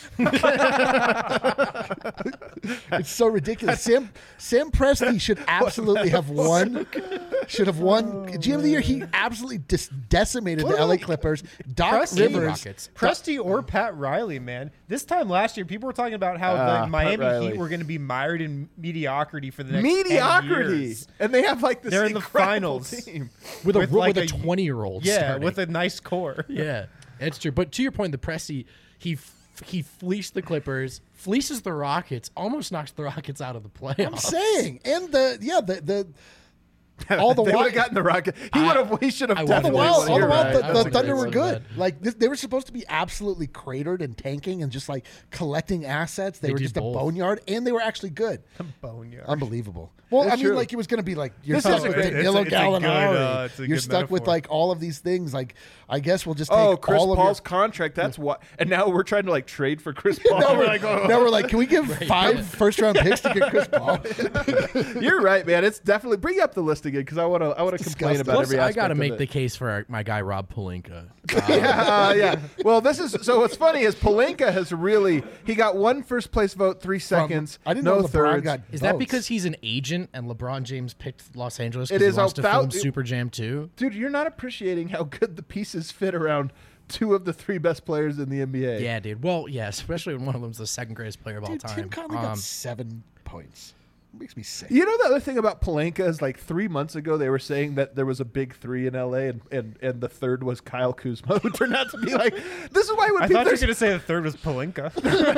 S5: It's so ridiculous. Sam Sam Presti should absolutely have won. Should have won G M of the Year. He absolutely dis- decimated the L A Clippers. Doc
S6: Presti,
S5: Rivers.
S4: Rockets.
S6: Presti or Pat Riley, man. This time last year, people were talking about how
S3: Ah,
S6: the
S3: Pat
S6: Miami
S3: Riley.
S6: Heat were going to be mired in mediocrity for the next ten
S3: Mediocrity,
S6: years.
S3: and they have like this.
S6: They're in the
S3: incredible
S6: finals.
S3: team.
S4: With a,
S6: with
S4: with
S6: like
S4: a
S6: a-
S4: twenty-year-old.
S6: Yeah,
S4: starting.
S6: with a nice core.
S4: Yeah, it's true. But to your point, the Presti, he f- he fleeced the Clippers, fleeces the Rockets, almost knocks the Rockets out of the playoffs.
S5: I'm saying, and the yeah the the all the
S3: they would
S5: while,
S3: have gotten the Rocket. He would have. He should have
S4: I
S5: all the
S3: definitely.
S5: while,
S3: won.
S5: all the
S3: You're
S5: while,
S3: right.
S5: the,
S4: I
S5: the
S4: would
S5: Thunder
S4: agree
S5: were
S4: with
S5: good.
S4: that.
S5: Like this, they were supposed to be absolutely cratered and tanking and just like collecting assets. They,
S4: They
S5: were
S4: did
S5: just
S4: both.
S5: a boneyard, and they were actually good.
S6: Boneyard.
S5: Unbelievable. Well,
S3: It's
S5: I mean,
S3: true.
S5: like it was going to be like you're
S3: This
S5: stuck
S3: is a
S5: with
S3: great-
S5: Danilo
S6: it's a- it's a good,
S5: Gallinari.
S6: uh, it's a
S5: you're
S6: good
S5: stuck with
S6: metaphor.
S5: like all of these things. Like I guess we'll just take
S3: Oh, Chris
S5: all of
S3: Paul's
S5: your.
S3: contract. That's what. And now we're trying to like trade for Chris Paul.
S5: Now we're,
S3: like, oh.
S5: now we're like, can we give five first round picks to get Chris Paul?
S3: You're right, man. It's definitely bring up the list again because I want to. I want to complain
S5: disgusting.
S3: about
S4: Plus,
S3: every
S4: I
S3: aspect.
S4: got to
S3: of
S4: make
S3: it.
S4: the case for our, my guy Rob Pelinka.
S3: yeah, uh, yeah. Well, this is so. What's funny is Pelinka has really he got one first place vote, three seconds,
S5: I didn't
S3: no
S5: know LeBron
S3: thirds.
S5: got
S4: Is that
S5: votes.
S4: because he's an agent and LeBron James picked Los Angeles
S3: It
S4: because he
S3: is
S4: wants to
S3: about-
S4: film
S3: it-
S4: Super Jam two?
S3: Dude, you're not appreciating how good the pieces fit around two of the three best players in the N B A.
S4: Yeah, dude. Well, yeah, especially when one of them's the second greatest player of all
S5: Dude,
S4: time.
S5: Tim Conley
S4: Um,
S5: got seven points. It makes me sick.
S3: You know the other thing about Pelinka is like three months ago they were saying that there was a big three in L A and, and, and the third was Kyle Kuzma, who turned out to be like this is why when
S6: I
S3: people
S6: thought you were
S3: there's-
S6: going to say the third was Pelinka.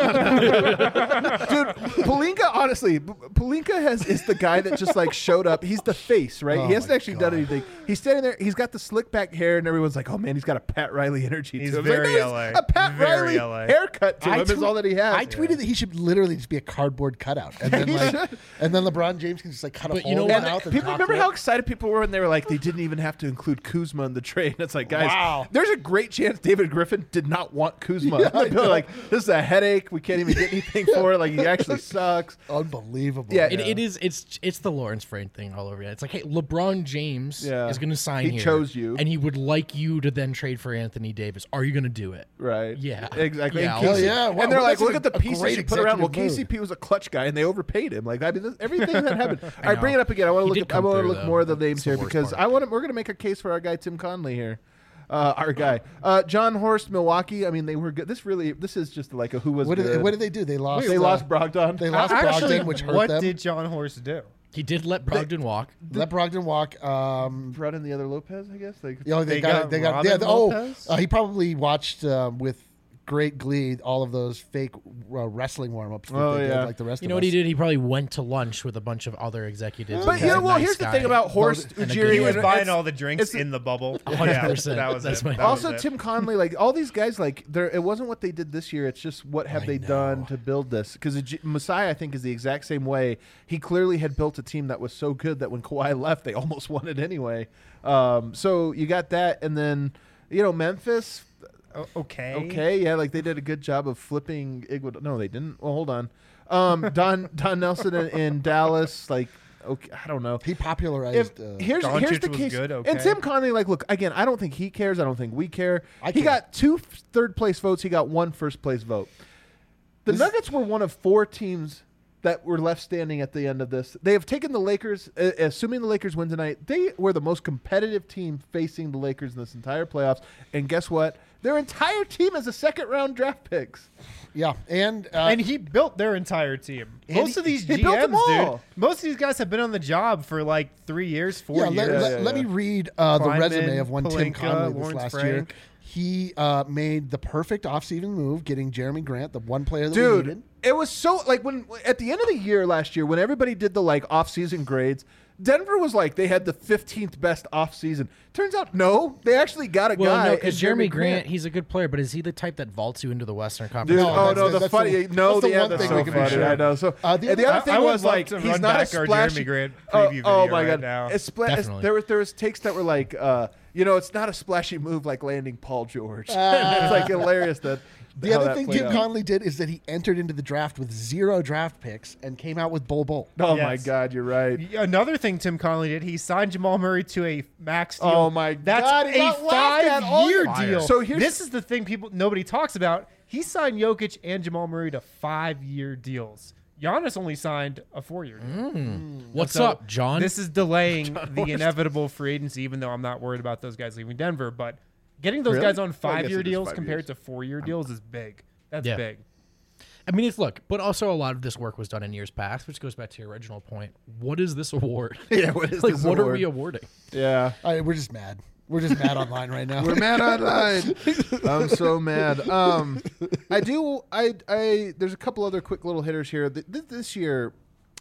S3: Dude, Pelinka, honestly, P- Pelinka has is the guy that just like showed up. He's the face, right?
S5: Oh
S3: he hasn't
S5: my
S3: actually done
S5: God.
S3: anything. He's standing there. He's got the slick back hair, and everyone's like, "Oh man, he's got a Pat Riley energy."
S6: He's
S3: to him. It's
S6: very
S3: like, no,
S6: L A.
S3: he's A Pat
S6: Very
S3: Riley
S6: L A.
S3: haircut to
S5: I
S3: him is
S5: tweet-
S3: all that he has.
S5: I tweeted that he should literally just be a cardboard cutout, and then
S3: He
S5: like,
S3: should.
S5: and then LeBron James can just like cut a
S4: But
S5: hole
S4: you know
S5: in
S4: what?
S5: his mouth. And
S3: People
S5: talk
S3: remember
S5: to
S3: how
S5: it.
S3: excited people were when they were like, they didn't even have to include Kuzma in the trade. It's like, guys,
S5: Wow.
S3: there's a great chance David Griffin did not want Kuzma. People are like, this is a headache. We can't even get anything for it. Like, he actually sucks.
S5: unbelievable.
S3: Yeah,
S4: It, it is. It's it's the Lawrence Frank thing all over again. It's like, hey, LeBron James
S3: Yeah.
S4: is going to sign
S3: He
S4: here.
S3: chose you.
S4: and he would like you to then trade for Anthony Davis. Are you going to do it?
S3: Right.
S4: Yeah.
S3: Exactly.
S4: Yeah,
S3: And
S4: Hell
S3: K C
S5: yeah. Wow,
S3: and they're
S5: well,
S3: like,
S5: that's
S3: look
S5: a-
S3: at the
S5: a
S3: pieces
S5: great
S3: you put around. Well,
S5: executive
S3: K C P was a clutch guy, and they overpaid him. Like, I mean, this, everything that happened. All right,
S4: know.
S3: bring it up again. I want to
S4: He
S3: look.
S4: did
S3: At, I
S4: come
S3: want to
S4: through,
S3: look
S4: though.
S3: more of the
S4: That's
S3: names
S4: the
S3: here
S4: worst
S3: because
S4: part.
S3: I want to. We're going to make a case for our guy Tim Conley here. Uh, our guy, uh, John Horst, Milwaukee. I mean, they were good. This really, this is just like a who was
S5: What did,
S3: good.
S5: they, what did they do? They lost.
S3: they
S5: uh,
S3: lost Brogdon.
S5: They lost
S6: Actually,
S5: Brogdon, which hurt
S6: what
S5: them.
S6: did John Horst do?
S4: He did let Brogdon walk.
S5: Let Brogdon walk. Um,
S3: brought in the other Lopez, I guess. Like,
S5: you know, they,
S6: They
S5: got,
S6: got
S5: they got
S6: Robin
S5: yeah, oh,
S6: Lopez?
S5: uh, he probably watched um, with great glee all of those fake uh, wrestling warm-ups that
S3: Oh,
S5: they
S3: yeah.
S5: did, like the rest
S4: You
S5: of
S4: know
S5: us.
S4: what he did? He probably went to lunch with a bunch of other executives.
S3: but
S4: and
S3: you
S4: was
S3: know,
S4: a
S3: well,
S4: nice
S3: here's the
S4: guy.
S3: thing about Horst
S4: and a
S3: Ujiri.
S4: good
S6: He was
S3: and
S6: buying
S3: it's-
S6: all the drinks
S3: it's-
S6: in the bubble.
S4: one hundred percent.
S6: that was
S4: That's
S6: it.
S4: my-
S6: That
S3: Also,
S6: was it.
S3: Tim Conley, like all these guys, like there, it wasn't what they did this year. It's just what have
S5: I
S3: they
S5: know.
S3: done to build this? Because Messiah, I think, is the exact same way. He clearly had built a team that was so good that when Kawhi left, they almost won it anyway. Um, so you got that, and then you know Memphis.
S6: O- okay.
S3: Okay, yeah, like they did a good job of flipping Iguodala. No, they didn't. Well, hold on. Um, Don Don Nelson in, in Dallas, like okay, I don't know.
S5: He popularized.
S3: If,
S5: uh,
S3: here's
S6: Doncic
S3: here's the
S6: was
S3: case,
S6: good,
S3: and
S6: okay.
S3: Tim Conley, like, look again. I don't think he cares. I don't think we care.
S5: I
S3: he
S5: care.
S3: got two f- third place votes. He got one first place vote. The
S5: This-
S3: Nuggets were one of four teams that were left standing at the end of this. They have taken the Lakers, uh, assuming the Lakers win tonight. They were the most competitive team facing the Lakers in this entire playoffs. And guess what? Their entire team is a second round draft picks.
S5: yeah, and uh,
S6: And he built their entire team.
S3: And
S6: Most
S3: he-
S6: of these
S3: he
S6: G
S3: built them
S6: Ms, dude.
S3: all.
S6: Most of these guys have been on the job for like three years, four
S5: yeah, let,
S6: years.
S5: let,
S3: Yeah,
S5: let
S3: yeah.
S5: me read uh, the
S6: Kleiman,
S5: resume of one Tim
S6: Pelinka,
S5: Conley this
S6: Lawrence
S5: last
S6: Frank.
S5: year. He uh, made the perfect offseason move, getting Jeremy Grant, the one player that we
S3: Dude,
S5: needed.
S3: it was so like when at the end of the year last year when everybody did the like off-season grades, Denver was like they had the fifteenth best off-season. Turns out no, they actually got a
S4: Well,
S3: guy.
S4: no,
S3: in
S4: because Jeremy Grant, he's a good player, but is he the type that vaults you into the Western
S3: Dude,
S4: Conference?
S5: No,
S3: oh
S5: that's
S3: no,
S5: the-
S3: the
S5: that's
S3: funny
S5: the-
S3: no,
S5: that's the
S3: yeah,
S5: one
S3: that's
S5: thing
S3: so
S5: we can be
S3: funny.
S5: sure.
S3: I know. So
S5: Uh, the
S3: and the
S5: other-
S3: other thing
S6: I would
S3: was
S6: love
S3: like
S6: to
S3: he's
S6: run
S3: not a
S6: back our
S3: splashy.
S6: Jeremy Grant
S3: oh,
S6: preview
S3: oh
S6: video
S3: my
S6: right
S3: god,
S6: now.
S3: It's spla- it's-
S4: Definitely.
S3: there was there was takes that were like, uh, you know, it's not a splashy move like landing Paul George. it's like hilarious that.
S5: The
S3: how
S5: other
S3: that
S5: thing
S3: played
S5: Tim
S3: out.
S5: Conley did is that he entered into the draft with zero draft picks and came out with Bol Bol.
S3: Oh my
S6: Yes.
S3: god, you're right.
S6: Another thing Tim Conley did, he signed Jamal Murray to a max deal.
S3: Oh my
S6: That's
S3: God, he
S6: a
S3: got laughed at all
S6: five-year
S3: year.
S6: deal.
S3: So here's-
S6: this is the thing people nobody talks about. He signed Jokic and Jamal Murray to five-year deals. Giannis only signed a four-year deal.
S4: What's
S6: So
S4: up, John?
S6: This is delaying the inevitable free agency, even though I'm not worried about those guys leaving Denver. But getting those
S3: Really?
S6: guys on
S3: Well, I guess
S6: five-year
S3: it is
S6: deals
S3: five
S6: compared
S3: years.
S6: to four-year deals is big. That's
S4: Yeah.
S6: big.
S4: I mean, it's look, but also a lot of this work was done in years past, which goes back to your original point. What is this award?
S3: Yeah, what is
S4: like,
S3: this
S4: what are
S3: award?
S4: we awarding?
S3: Yeah.
S5: All right, we're just mad. We're just mad online right now.
S3: We're mad online. I'm so mad. Um, I do. I. I. There's a couple other quick little hitters here. Th- th- This year,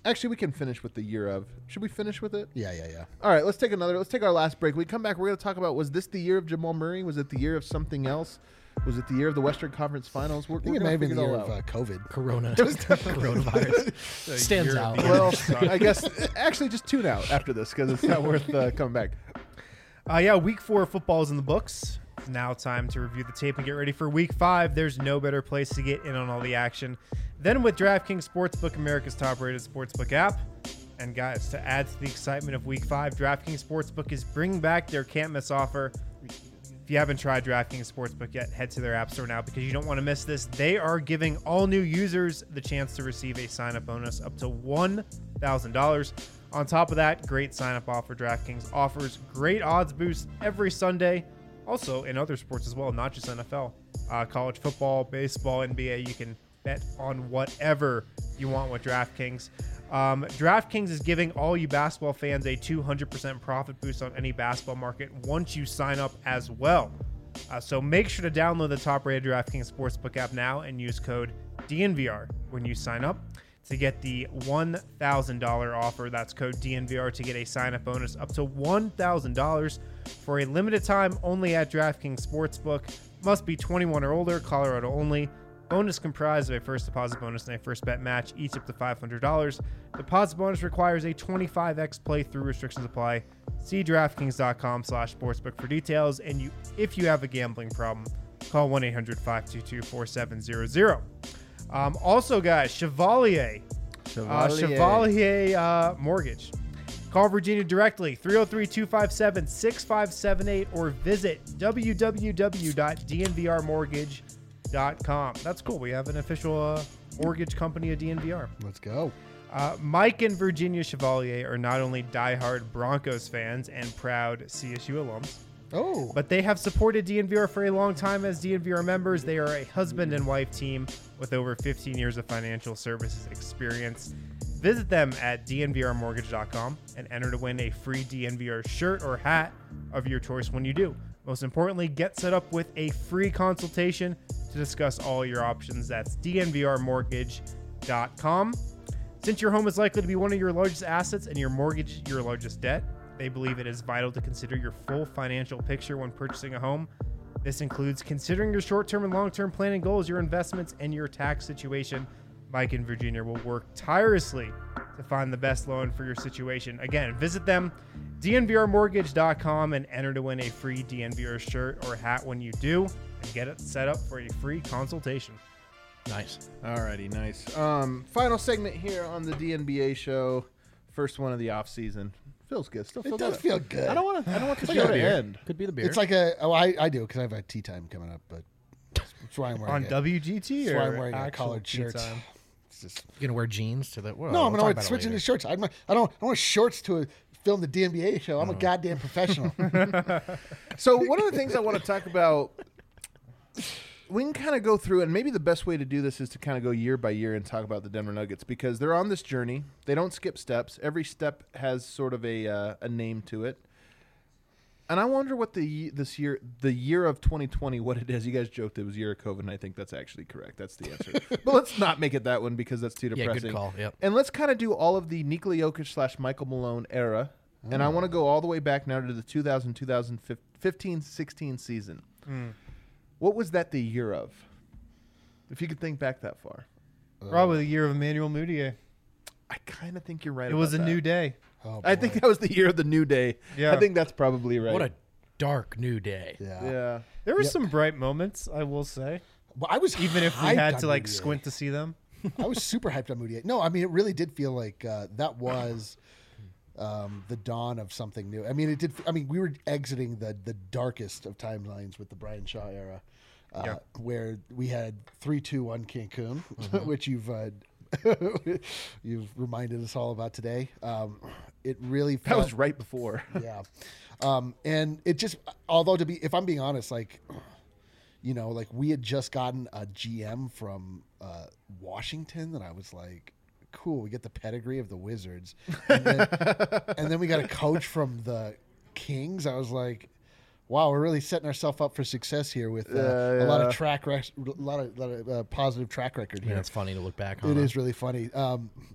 S3: Actually, we can finish with the year of. Should we finish with it?
S5: Yeah, yeah, yeah.
S3: All right, let's take another. Let's take our last break. We come back. We're going to talk about, was this the year of Jamal Murray? Was it the year of something else? Was it the year of the Western Conference Finals? We're,
S5: I think
S3: we're
S5: it may have been the
S3: figure
S5: year
S3: it
S5: of
S3: all
S5: uh,
S3: out.
S5: COVID.
S4: Corona. Coronavirus. Stands out.
S3: Well, I guess actually just tune out after this because it's not worth uh, coming back.
S1: Uh, yeah, week four football is in the books. It's now time to review the tape and get ready for week five. There's no better place to get in on all the action than with DraftKings Sportsbook, America's top-rated sportsbook app. And guys, to add to the excitement of week five, DraftKings Sportsbook is bringing back their can't-miss offer. If you haven't tried DraftKings Sportsbook yet, head to their app store now because you don't want to miss this. They are giving all new users the chance to receive a sign-up bonus up to one thousand dollars. On top of that, great sign-up offer. DraftKings offers great odds boosts every Sunday. Also, in other sports as well, not just N F L. Uh, college football, baseball, N B A, you can bet on whatever you want with DraftKings. Um, DraftKings is giving all you basketball fans a two hundred percent profit boost on any basketball market once you sign up as well. Uh, so make sure to download the top-rated DraftKings Sportsbook app now and use code D N V R when you sign up to get the one thousand dollars offer. That's code D N V R to get a sign-up bonus up to one thousand dollars for a limited time only at DraftKings Sportsbook. Must be twenty-one or older, Colorado only. Bonus comprised of a first deposit bonus and a first bet match, each up to five hundred dollars. Deposit bonus requires a twenty-five x playthrough. Restrictions apply. See DraftKings.com slash sportsbook for details. And you, if you have a gambling problem, call one eight hundred five two two four seven zero zero. Um, also, guys, Chevalier. Uh, Chevalier uh, Mortgage. Call Virginia directly, three oh three, two five seven, six five seven eight, or visit w w w dot d n v r mortgage dot com. That's cool. We have an official uh, mortgage company of D N V R.
S5: Let's go.
S1: Uh, Mike and Virginia Chevalier are not only diehard Broncos fans and proud C S U alums,
S5: Oh.
S1: but they have supported D N V R for a long time as D N V R members. They are a husband and wife team with over fifteen years of financial services experience. Visit them at d n v r mortgage dot com and enter to win a free D N V R shirt or hat of your choice when you do. Most importantly, get set up with a free consultation to discuss all your options. That's d n v r mortgage dot com. Since your home is likely to be one of your largest assets and your mortgage your largest debt, they believe it is vital to consider your full financial picture when purchasing a home. This includes considering your short-term and long-term planning goals, your investments, and your tax situation. Mike and Virginia will work tirelessly to find the best loan for your situation. Again, visit them, d n v r mortgage dot com, and enter to win a free D N V R shirt or hat when you do, and get it set up for a free consultation.
S4: Nice.
S3: Alrighty, nice. Um, final segment here on the D N B A show. First one of the off season. Feels good. Still feel
S5: It does
S3: good.
S5: feel good.
S3: I don't want to. I don't want the
S4: Could
S3: show
S4: be
S3: to
S4: a beer.
S3: end.
S4: Could be the beer.
S5: It's like a. Oh, I, I do because I have a tea time coming up, but that's why I'm wearing
S1: On
S5: it.
S1: W G T
S5: That's
S1: or
S5: why I'm wearing a
S1: actual
S5: collared
S1: tea
S5: shirt.
S1: time?
S5: It's just,
S4: you're gonna wear jeans to the. Well,
S5: no, I'm
S4: we'll
S5: gonna
S4: talk about it
S5: switch into
S4: later.
S5: shirts. I'm, not- I don't. I don't want shorts to film the D N B A show. I'm a goddamn professional.
S3: So one of the things I want to talk about, we can kind of go through, and maybe the best way to do this is to kind of go year by year and talk about the Denver Nuggets because they're on this journey. They don't skip steps. Every step has sort of a uh, a name to it. And I wonder what the ye- this year, the year of twenty twenty, what it is. You guys joked it was year of COVID, and I think that's actually correct. That's the answer. But let's not make it that one because that's too
S4: Yeah,
S3: depressing.
S4: good call. Yep.
S3: And let's kind of do all of the Nikola Jokic slash Michael Malone era. And I want to go all the way back now to the two thousand, two thousand fifteen, sixteen season. What was that the year of? If you could think back that far.
S1: Probably the year of Emmanuel Mudiay.
S3: I kind of think you're right
S1: It was a
S3: about
S1: new
S3: that.
S1: day.
S5: Oh,
S3: I
S5: boy.
S3: think that was the year of the new day.
S1: Yeah.
S3: I think that's probably right.
S4: What a dark new day.
S5: Yeah.
S3: Yeah.
S1: There were
S5: Yep.
S1: some bright moments, I will say.
S5: Well, I was
S1: Even if we
S5: hyped
S1: had
S5: on
S1: to like
S5: Moutier.
S1: squint to see them.
S5: I was super hyped on Moutier. No, I mean it really did feel like uh, that was um, the dawn of something new. I mean it did. I mean we were exiting the the darkest of timelines with the Brian Shaw era, uh,
S1: Yeah.
S5: where we had three two one Cancun, which you've uh, you've reminded us all about today. Um, it really
S3: That
S5: felt,
S3: was right before.
S5: yeah, um, and it just although to be if I'm being honest, like. You know, like we had just gotten a G M from uh, Washington, and I was like, "Cool, we get the pedigree of the Wizards," and then, and then we got a coach from the Kings. I was like, "Wow, we're really setting ourselves up for success here with uh,
S3: Yeah,
S5: a lot
S3: yeah.
S5: of track, rec- a lot of, lot of uh, positive track record
S4: Yeah,
S5: here."
S4: it's funny to look back on.
S5: It
S4: huh?
S5: is really funny. Um,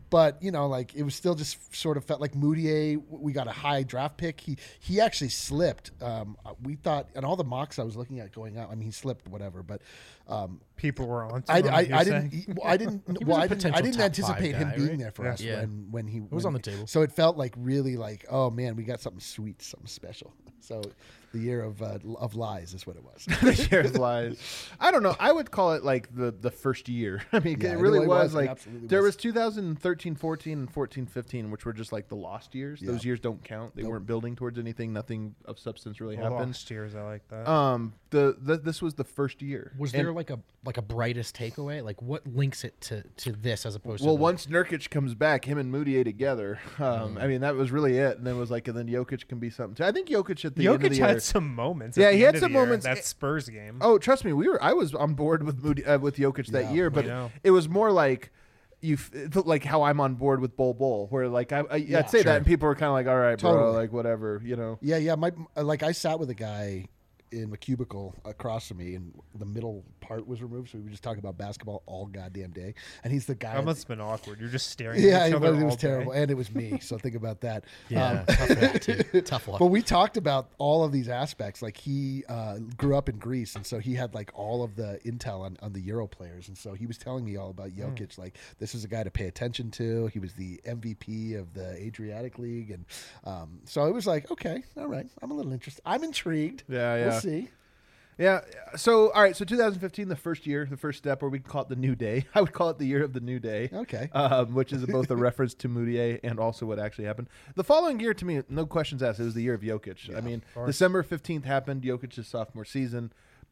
S5: but you know, like it was still just sort of felt like Moutier. We got a high draft pick. He he actually slipped. Um, we thought, and all the mocks I was looking at going out. I mean, he slipped, whatever. But um,
S6: people were on.
S5: I,
S6: him,
S5: I,
S6: you're
S5: I
S6: saying?
S5: didn't. Well, I didn't.
S4: He was
S5: well,
S4: a
S5: I didn't. I
S4: potential
S5: didn't
S4: top
S5: anticipate
S4: five
S5: him
S4: guy,
S5: being
S4: right?
S5: there for
S6: Yeah.
S5: us
S4: Yeah.
S5: when when he
S4: was
S5: when-
S4: on the table.
S5: So it felt like really like, oh man, we got something sweet, something special. So the year of uh, of lies is what it was.
S3: The year of lies. I don't know. I would call it like the the first year. I mean,
S5: Yeah,
S3: it
S5: it
S3: really
S5: really
S3: was,
S5: was. It
S3: like
S5: absolutely
S3: there
S5: was.
S3: was two thousand thirteen, fourteen, and fourteen, fifteen, which were just like the lost years.
S5: Yeah.
S3: Those years don't count. They
S5: Nope.
S3: weren't building towards anything. Nothing of substance really
S6: The
S3: happened.
S6: lost years, I like that.
S3: Um, the, the this was the first year.
S4: Was
S3: And-
S4: there like a like a brightest takeaway? Like what links it to, to this as opposed
S3: Well,
S4: to the-
S3: once Nurkic comes back, him and Moutier together. Um, I mean, that was really it. And then it was like, and then Jokic can be something too. I think Jokic at the end of the
S6: Jokic
S3: year.
S6: had some moments.
S3: Yeah,
S6: at the
S3: he
S6: end
S3: had
S6: of
S3: some
S6: the year,
S3: moments.
S6: That Spurs game.
S3: Oh, trust me, we were. I was on board with Moody, uh, with Jokic that
S5: Yeah,
S3: year, but
S6: I know.
S3: it was more like you, f- it felt like how I'm on board with Bol Bol, where like I, I
S5: Yeah,
S3: I'd say
S4: sure.
S3: that, and people were kind of like, all right, bro,
S5: Totally.
S3: like whatever, you know.
S5: Yeah, yeah. My like I sat with a guy in a cubicle across from me, and the middle part was removed, so we were just talking about basketball all goddamn day. And he's the guy.
S6: That must have been awkward. You're just staring
S5: yeah,
S6: at each
S5: it
S6: other
S5: was, it was
S6: all day.
S5: terrible, and it was me. So think about that.
S4: yeah,
S5: Um,
S4: tough luck, too. Tough luck.
S5: But we talked about all of these aspects. Like he uh, grew up in Greece, and so he had like all of the intel on, on the Euro players. And so he was telling me all about Jokic. Like this is a guy to pay attention to. He was the M V P of the Adriatic League, and um, so it was like, okay, all right, I'm a little interested. I'm intrigued.
S3: Yeah, yeah.
S5: We'll see.
S3: Yeah. So, all right. So, twenty fifteen, the first year, the first step, or we could call it the new day. I would call it the year of the new day.
S5: Okay.
S3: Um, which is both a reference to Moutier and also what actually happened. The following year, to me, no questions asked, it was the year of Jokic. I mean, December fifteenth happened, Jokic's sophomore season.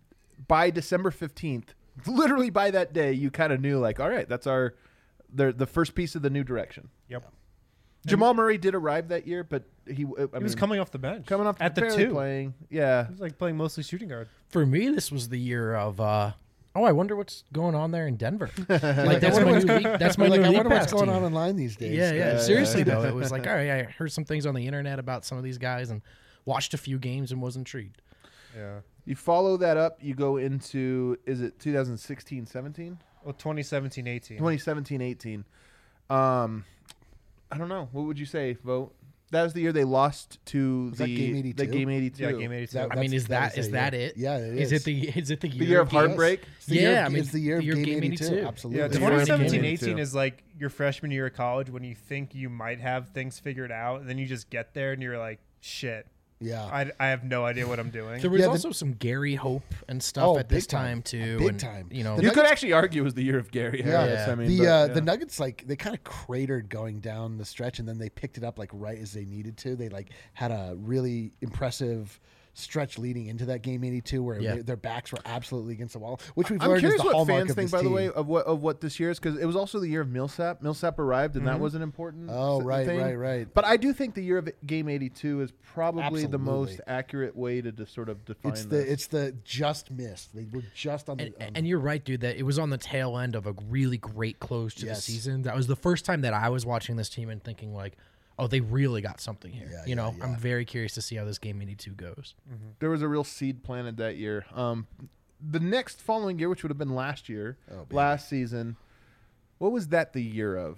S3: By December fifteenth, literally by that day, you kind of knew, like, all right, that's our the the first piece of the new direction.
S6: Yep.
S3: Jamal Murray did arrive that year, but he, I
S6: He was
S3: mean,
S6: coming off the bench.
S3: coming off
S6: at the
S3: barely
S6: two.
S3: playing. Yeah.
S6: He was like playing mostly shooting guard.
S4: For me, this was the year of. Uh, oh, I wonder what's going on there in Denver. Like
S5: I
S4: that's
S5: wonder
S4: my
S5: what's-
S4: new league. That's my
S5: like,
S4: new
S5: I
S4: league
S5: wonder what's
S4: pass
S5: going
S4: team.
S5: on online these days.
S4: Yeah, yeah.
S3: Yeah,
S4: Seriously
S3: yeah.
S4: though, it was like, all right, I heard some things on the internet about some of these guys and watched a few games and was intrigued.
S6: Yeah.
S3: You follow that up, you go into, is it twenty sixteen seventeen?
S6: Well, twenty seventeen eighteen.
S3: twenty seventeen eighteen. Um, I don't know. What would you say, Vote? That was the year they lost to
S5: Was
S3: the
S5: that game eighty-two?
S3: The game eighty-two.
S6: Yeah, game eighty-two.
S5: That-
S4: I mean,
S5: That's-
S4: is
S5: that
S4: that
S5: was
S4: is
S5: a
S4: that
S5: year.
S4: it?
S5: Yeah, it
S4: Is
S5: is.
S4: it the is it the year,
S3: The year of
S5: Yes.
S3: heartbreak.
S5: It's the year
S4: Yeah,
S5: of-
S4: I mean,
S5: it's the year of
S4: the year of
S5: game
S4: game
S5: eighty-two.
S4: eighty-two.
S5: Absolutely.
S6: Yeah,
S3: The
S6: twenty
S3: first game
S6: seventeen
S3: eighty-two.
S6: eighteen is like your freshman year of college when you think you might have things figured out, and then you just get there and you're like, shit,
S5: Yeah.
S6: I, I have no idea what I'm doing.
S4: There was
S5: Yeah, the-
S4: also some Gary Hope and stuff
S5: Oh,
S4: at this
S5: big time.
S4: time too.
S5: Big
S4: and,
S5: time.
S4: You know,
S5: The
S3: You
S5: Nuggets-
S3: could actually argue it was the year of Gary
S5: Yeah.
S3: Harris.
S4: Yeah.
S3: I mean,
S5: the
S3: but,
S5: uh,
S3: yeah.
S5: the Nuggets like they kind of cratered going down the stretch, and then they picked it up like right as they needed to. They like had a really impressive stretch leading into that game eighty-two, where
S4: Yeah.
S5: they, their backs were absolutely against the wall, which we've
S3: I'm
S5: learned is
S3: curious
S5: the
S3: what
S5: hallmark
S3: fans
S5: of
S3: think,
S5: this
S3: by the
S5: team.
S3: way, of what of what this year is, because it was also the year of Millsap. Millsap arrived, and that was an important.
S5: Oh,
S3: s-
S5: right,
S3: thing.
S5: right, right.
S3: But I do think the year of Game eighty-two is probably the most
S5: Absolutely.
S3: accurate way to, to sort of define
S5: It's the
S3: this.
S5: it's the just missed. They were just on the.
S4: and,
S5: um,
S4: and you're right, dude. That it was on the tail end of a really great close to
S5: Yes.
S4: the season. That was the first time that I was watching this team and thinking like, oh, they really got something here.
S5: Yeah,
S4: you
S5: yeah,
S4: know,
S5: yeah.
S4: I'm very curious to see how this game eighty-two goes.
S3: there was a real seed planted that year. Um, the next following year, which would have been last year,
S5: Oh, baby.
S3: last season, what was that the year of?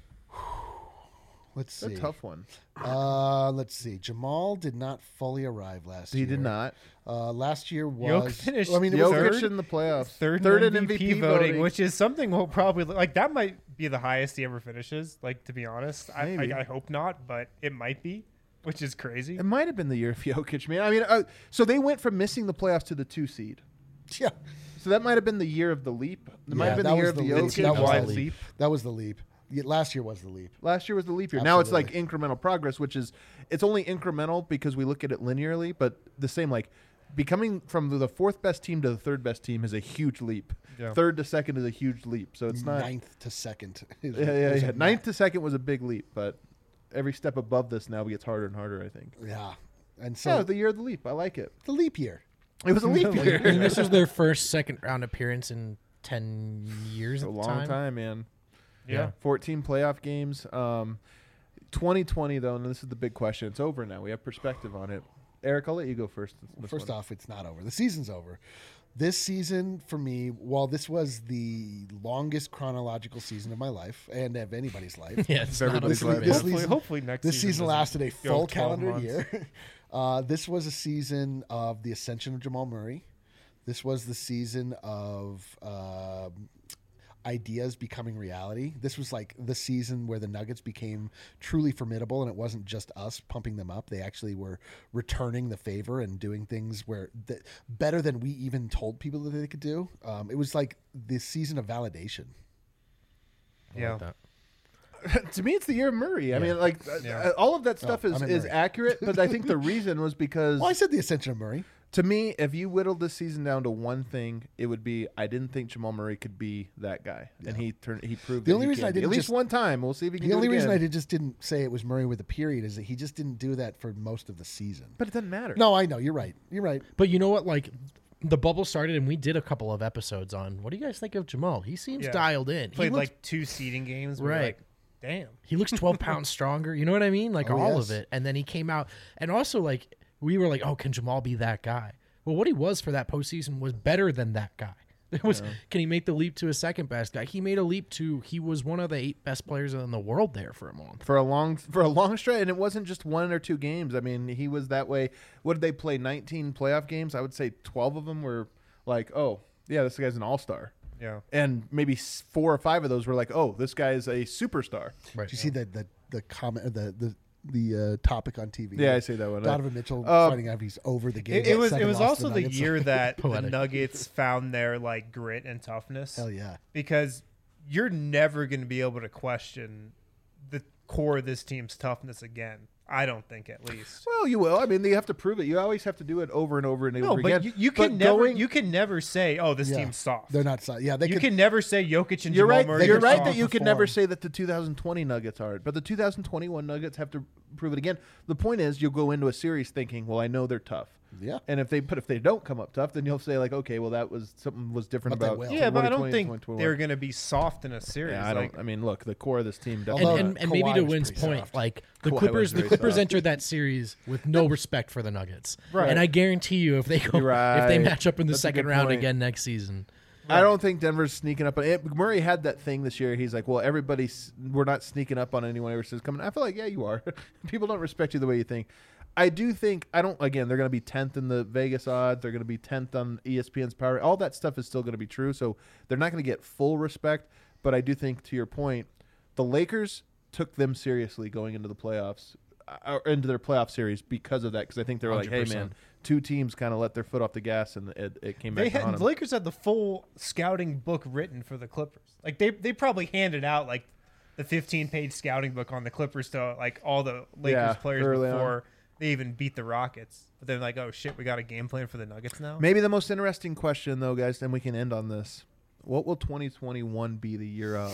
S5: let's
S3: It's
S5: see.
S3: a tough one.
S5: Uh, let's see. Jamal did not fully arrive last
S3: He
S5: year.
S3: did not.
S5: Uh, last year
S6: Jokic
S5: was.
S6: finished
S5: I mean, it was
S3: Jokic
S6: third-
S3: in the playoffs,
S6: Third,
S3: third
S6: in
S3: in
S6: M V P,
S3: voting,
S6: voting, which is something we'll probably like. That might be the highest he ever finishes. Like to be honest, I,
S3: Maybe.
S6: I, I hope not, but it might be, which is crazy.
S3: It might have been the year of Jokic, man. I mean, uh, so they went from missing the playoffs to the two seed.
S5: Yeah.
S3: So that might have been the year of the leap. It might
S5: Yeah,
S3: have been
S5: that
S3: the year
S5: was
S3: of
S5: the
S3: the
S5: leap.
S3: Jokic.
S5: That was
S6: Wide
S5: the
S6: leap.
S5: That was the leap. Yeah, last year was the leap.
S3: Last year was the leap year. Now it's like
S5: Absolutely.
S3: incremental progress, which is it's only incremental because we look at it linearly, but the same like becoming from the fourth best team to the third best team is a huge leap.
S6: Yeah.
S3: Third to second is a huge leap. So it's not
S5: ninth to second. is-
S3: Yeah, yeah,
S5: is
S3: yeah.
S5: a
S3: Ninth to second was a big leap, but every step above this now gets harder and harder, I think.
S5: Yeah. And so
S3: So the year of the leap. I like it.
S5: the leap year.
S3: It was a leap
S4: And
S3: year.
S4: this was their first second round appearance in ten years.
S3: a
S4: at the
S3: long
S4: time.
S3: time, man.
S6: Yeah.
S3: fourteen playoff games. Um, twenty twenty, though, and this is the big question. It's over now. We have perspective on it. Eric, I'll let you go first. this
S5: First
S3: one.
S5: off, it's not over. The season's over. This season for me, while this was the longest chronological season of my life and of anybody's life,
S4: Yeah, it's not
S3: Everybody's
S4: a
S3: life.
S4: free
S5: This
S4: man.
S6: hopefully,
S5: season-
S6: hopefully next
S5: this
S6: season,
S5: season
S6: doesn't
S5: lasted a
S6: go
S5: full
S6: twelve
S5: calendar
S6: months.
S5: year. Uh, this was a season of the ascension of Jamal Murray. This was the season of um ideas becoming reality. This was like the season where the Nuggets became truly formidable, and it wasn't just us pumping them up. They actually were returning the favor and doing things where that better than we even told people that they could do. Um, it was like this season of validation.
S4: I
S6: Yeah.
S4: like that.
S3: To me, it's the year of Murray. I mean, like uh,
S6: Yeah.
S3: uh, all of that stuff
S5: Oh,
S3: is,
S5: I'm in
S3: is
S5: Murray.
S3: accurate, but I think the reason was because
S5: Well, I said the ascension of Murray.
S3: to me, if you whittled this season down to one thing, it would be I didn't think Jamal Murray could be that guy, and he turned he proved
S5: The
S3: that
S5: only
S3: he
S5: reason
S3: can
S5: I
S3: be.
S5: didn't
S3: at least
S5: just-
S3: one time. We'll see if he can.
S5: The
S3: do
S5: only
S3: it
S5: reason
S3: again.
S5: I did, just didn't say it was Murray with a period is that he just didn't do that for most of the season.
S3: but it doesn't matter.
S5: No, I know. You're right. You're right.
S4: But you know what? Like, the bubble started, and we did a couple of episodes on. What do you guys think of Jamal? He seems
S6: Yeah.
S4: dialed in.
S6: Played
S4: he looks,
S6: like two seeding games. Where
S4: Right.
S6: Like, damn.
S4: he looks twelve pounds stronger. You know what I mean? Like
S5: Oh,
S4: all
S5: yes.
S4: of it. And then he came out, and also like we were like, oh, can Jamal be that guy? Well, what he was for that postseason was better than that guy. It was. Can he make the leap to a second best guy? He made a leap to. He was one of the eight best players in the world there for a month.
S3: For a long for a long stretch, and it wasn't just one or two games. I mean, he was that way. What did they play? nineteen playoff games. I would say twelve of them were like, oh yeah, this guy's an all star.
S6: Yeah.
S3: And maybe s- four or five of those were like, oh, this guy is a superstar.
S4: Right.
S5: Did you see the the the comment or the the the uh, topic on T V?
S3: Yeah, I see that one.
S5: Donovan Mitchell
S3: Uh,
S5: finding out he's over the game.
S6: It, it was.
S5: Second
S6: It was
S5: loss to
S6: also the
S5: Nuggets.
S6: year that the
S4: Poetic.
S6: Nuggets found their like grit and toughness.
S5: Hell yeah.
S6: Because you're never going to be able to question the core of this team's toughness again. I don't think, at least.
S3: Well, you will. I mean, you have to prove it. You always have to do it over and over and over
S6: No,
S3: again.
S6: but you, you can
S3: But
S6: never.
S3: going-
S6: You can never say, "Oh, this
S5: Yeah.
S6: team's soft."
S5: They're not soft. Yeah, they
S6: You
S5: could,
S6: can never say Jokic and
S3: You're
S6: Jamal
S3: right.
S6: Murray.
S3: You're
S6: are
S3: right
S6: soft.
S3: that you can never
S5: perform.
S3: say that the two thousand twenty Nuggets are, but the two thousand twenty-one Nuggets have to prove it again. The point is, you'll go into a series thinking, "Well, I know they're tough."
S5: Yeah.
S3: And if they but if they don't come up tough, then you'll say like, "Okay, well, that was something was different
S5: But they
S3: about."
S5: will.
S6: Yeah, but I don't
S3: twenty twenty,
S6: think
S3: twenty twenty-one.
S6: they're going to be soft in a series.
S3: Yeah, I
S6: like,
S3: don't. I mean, look, the core of this team
S4: And,
S3: definitely.
S5: Although
S4: and, and maybe
S5: Kawhi
S4: to
S5: was
S4: Wynn's
S5: pretty
S4: point,
S5: soft.
S4: like the
S3: Kawhi was
S4: Clippers, the
S3: very
S4: Clippers
S3: soft.
S4: entered that series with no respect for the Nuggets,
S3: Right.
S4: and I guarantee you, if they go,
S3: You're
S4: if they
S3: right.
S4: match up in the
S3: That's a
S4: second
S3: good
S4: round
S3: point.
S4: again next season,
S3: I don't think Denver's sneaking up on it. Murray had that thing this year. He's like, well, everybody's we're not sneaking up on anyone versus coming. I feel like, yeah, you are. People don't respect you the way you think. I do think I don't. Again, they're going to be tenth in the Vegas odds. They're going to be tenth on E S P N's power. All that stuff is still going to be true. So they're not going to get full respect. But I do think, to your point, the Lakers took them seriously going into the playoffs, uh, or into their playoff series because of that. Because I think they were like, hey,
S4: one hundred
S3: man,
S4: percent.
S3: two teams kind of let their foot off the gas, and it, it came back
S6: They
S3: to haunt
S6: had,
S3: them.
S6: the Lakers had the full scouting book written for the Clippers. Like they they probably handed out like the fifteen page scouting book on the Clippers to like all the Lakers
S3: Yeah,
S6: players
S3: early on.
S6: before they even beat the Rockets. But they're like, oh shit, we got a game plan for the Nuggets now.
S3: Maybe the most interesting question, though, guys, then we can end on this. What will twenty twenty-one be the year of?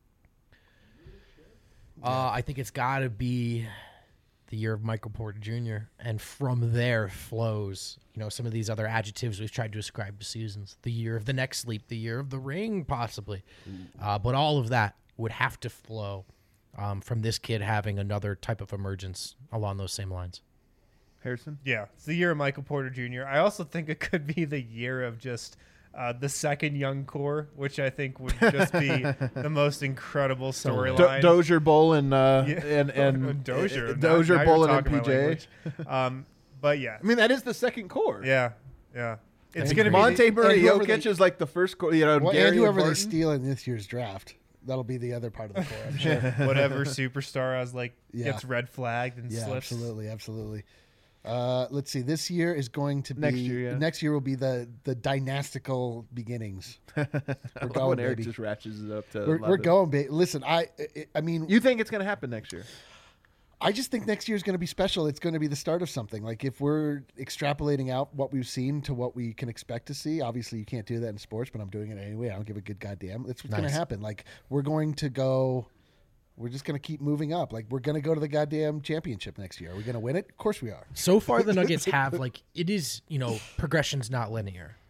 S4: uh, I think it's got to be the year of Michael Porter Junior And from there flows, you know, some of these other adjectives we've tried to ascribe to seasons. The year of the next leap, the year of the ring, possibly. Uh, but all of that would have to flow um, from this kid having another type of emergence along those same lines.
S3: Harrison?
S6: Yeah, it's the year of Michael Porter Junior I also think it could be the year of just uh, the second young core, which I think would just be the most incredible
S3: Do-
S6: storyline.
S3: Dozier, Bolin, uh,
S6: Yeah.
S3: and and
S6: Dozier,
S3: uh,
S6: Now-
S3: Dozier,
S6: now you're
S3: Bolin, and
S6: talking
S3: P
S6: my
S3: J.
S6: language. Um, but yeah,
S3: I mean, that is the second core.
S6: yeah, yeah. It's
S5: And
S6: gonna be
S3: Monte
S6: the-
S3: Murray,
S5: and whoever
S3: Jokic
S5: they-
S3: is like the first core. You know,
S5: Well,
S3: Gary
S5: and whoever they
S3: Barton.
S5: steal in this year's draft, that'll be the other part of the core. I'm sure.
S6: whatever superstar has like
S5: Yeah.
S6: gets red flagged and
S5: Yeah,
S6: slips.
S5: absolutely, absolutely. Uh, let's see. This year is going to be
S3: Next year, yeah.
S5: Next year will be the the dynastical beginnings. We're
S3: When
S5: going,
S3: Eric
S5: baby.
S3: just ratchets it up to
S5: We're, we're
S3: eleven.
S5: going, baby. Listen, I, I, I mean,
S3: You think it's going to happen next year?
S5: I just think next year is going to be special. It's going to be the start of something. Like if we're extrapolating out what we've seen to what we can expect to see, obviously you can't do that in sports, but I'm doing it anyway. I don't give a good goddamn. That's what's going
S4: Nice.
S5: to happen. Like we're going to go. We're just going to keep moving up. Like we're going to go to the goddamn championship next year. Are we going to win it? Of course we are.
S4: So far, the Nuggets have like it is, you know, progression's not linear,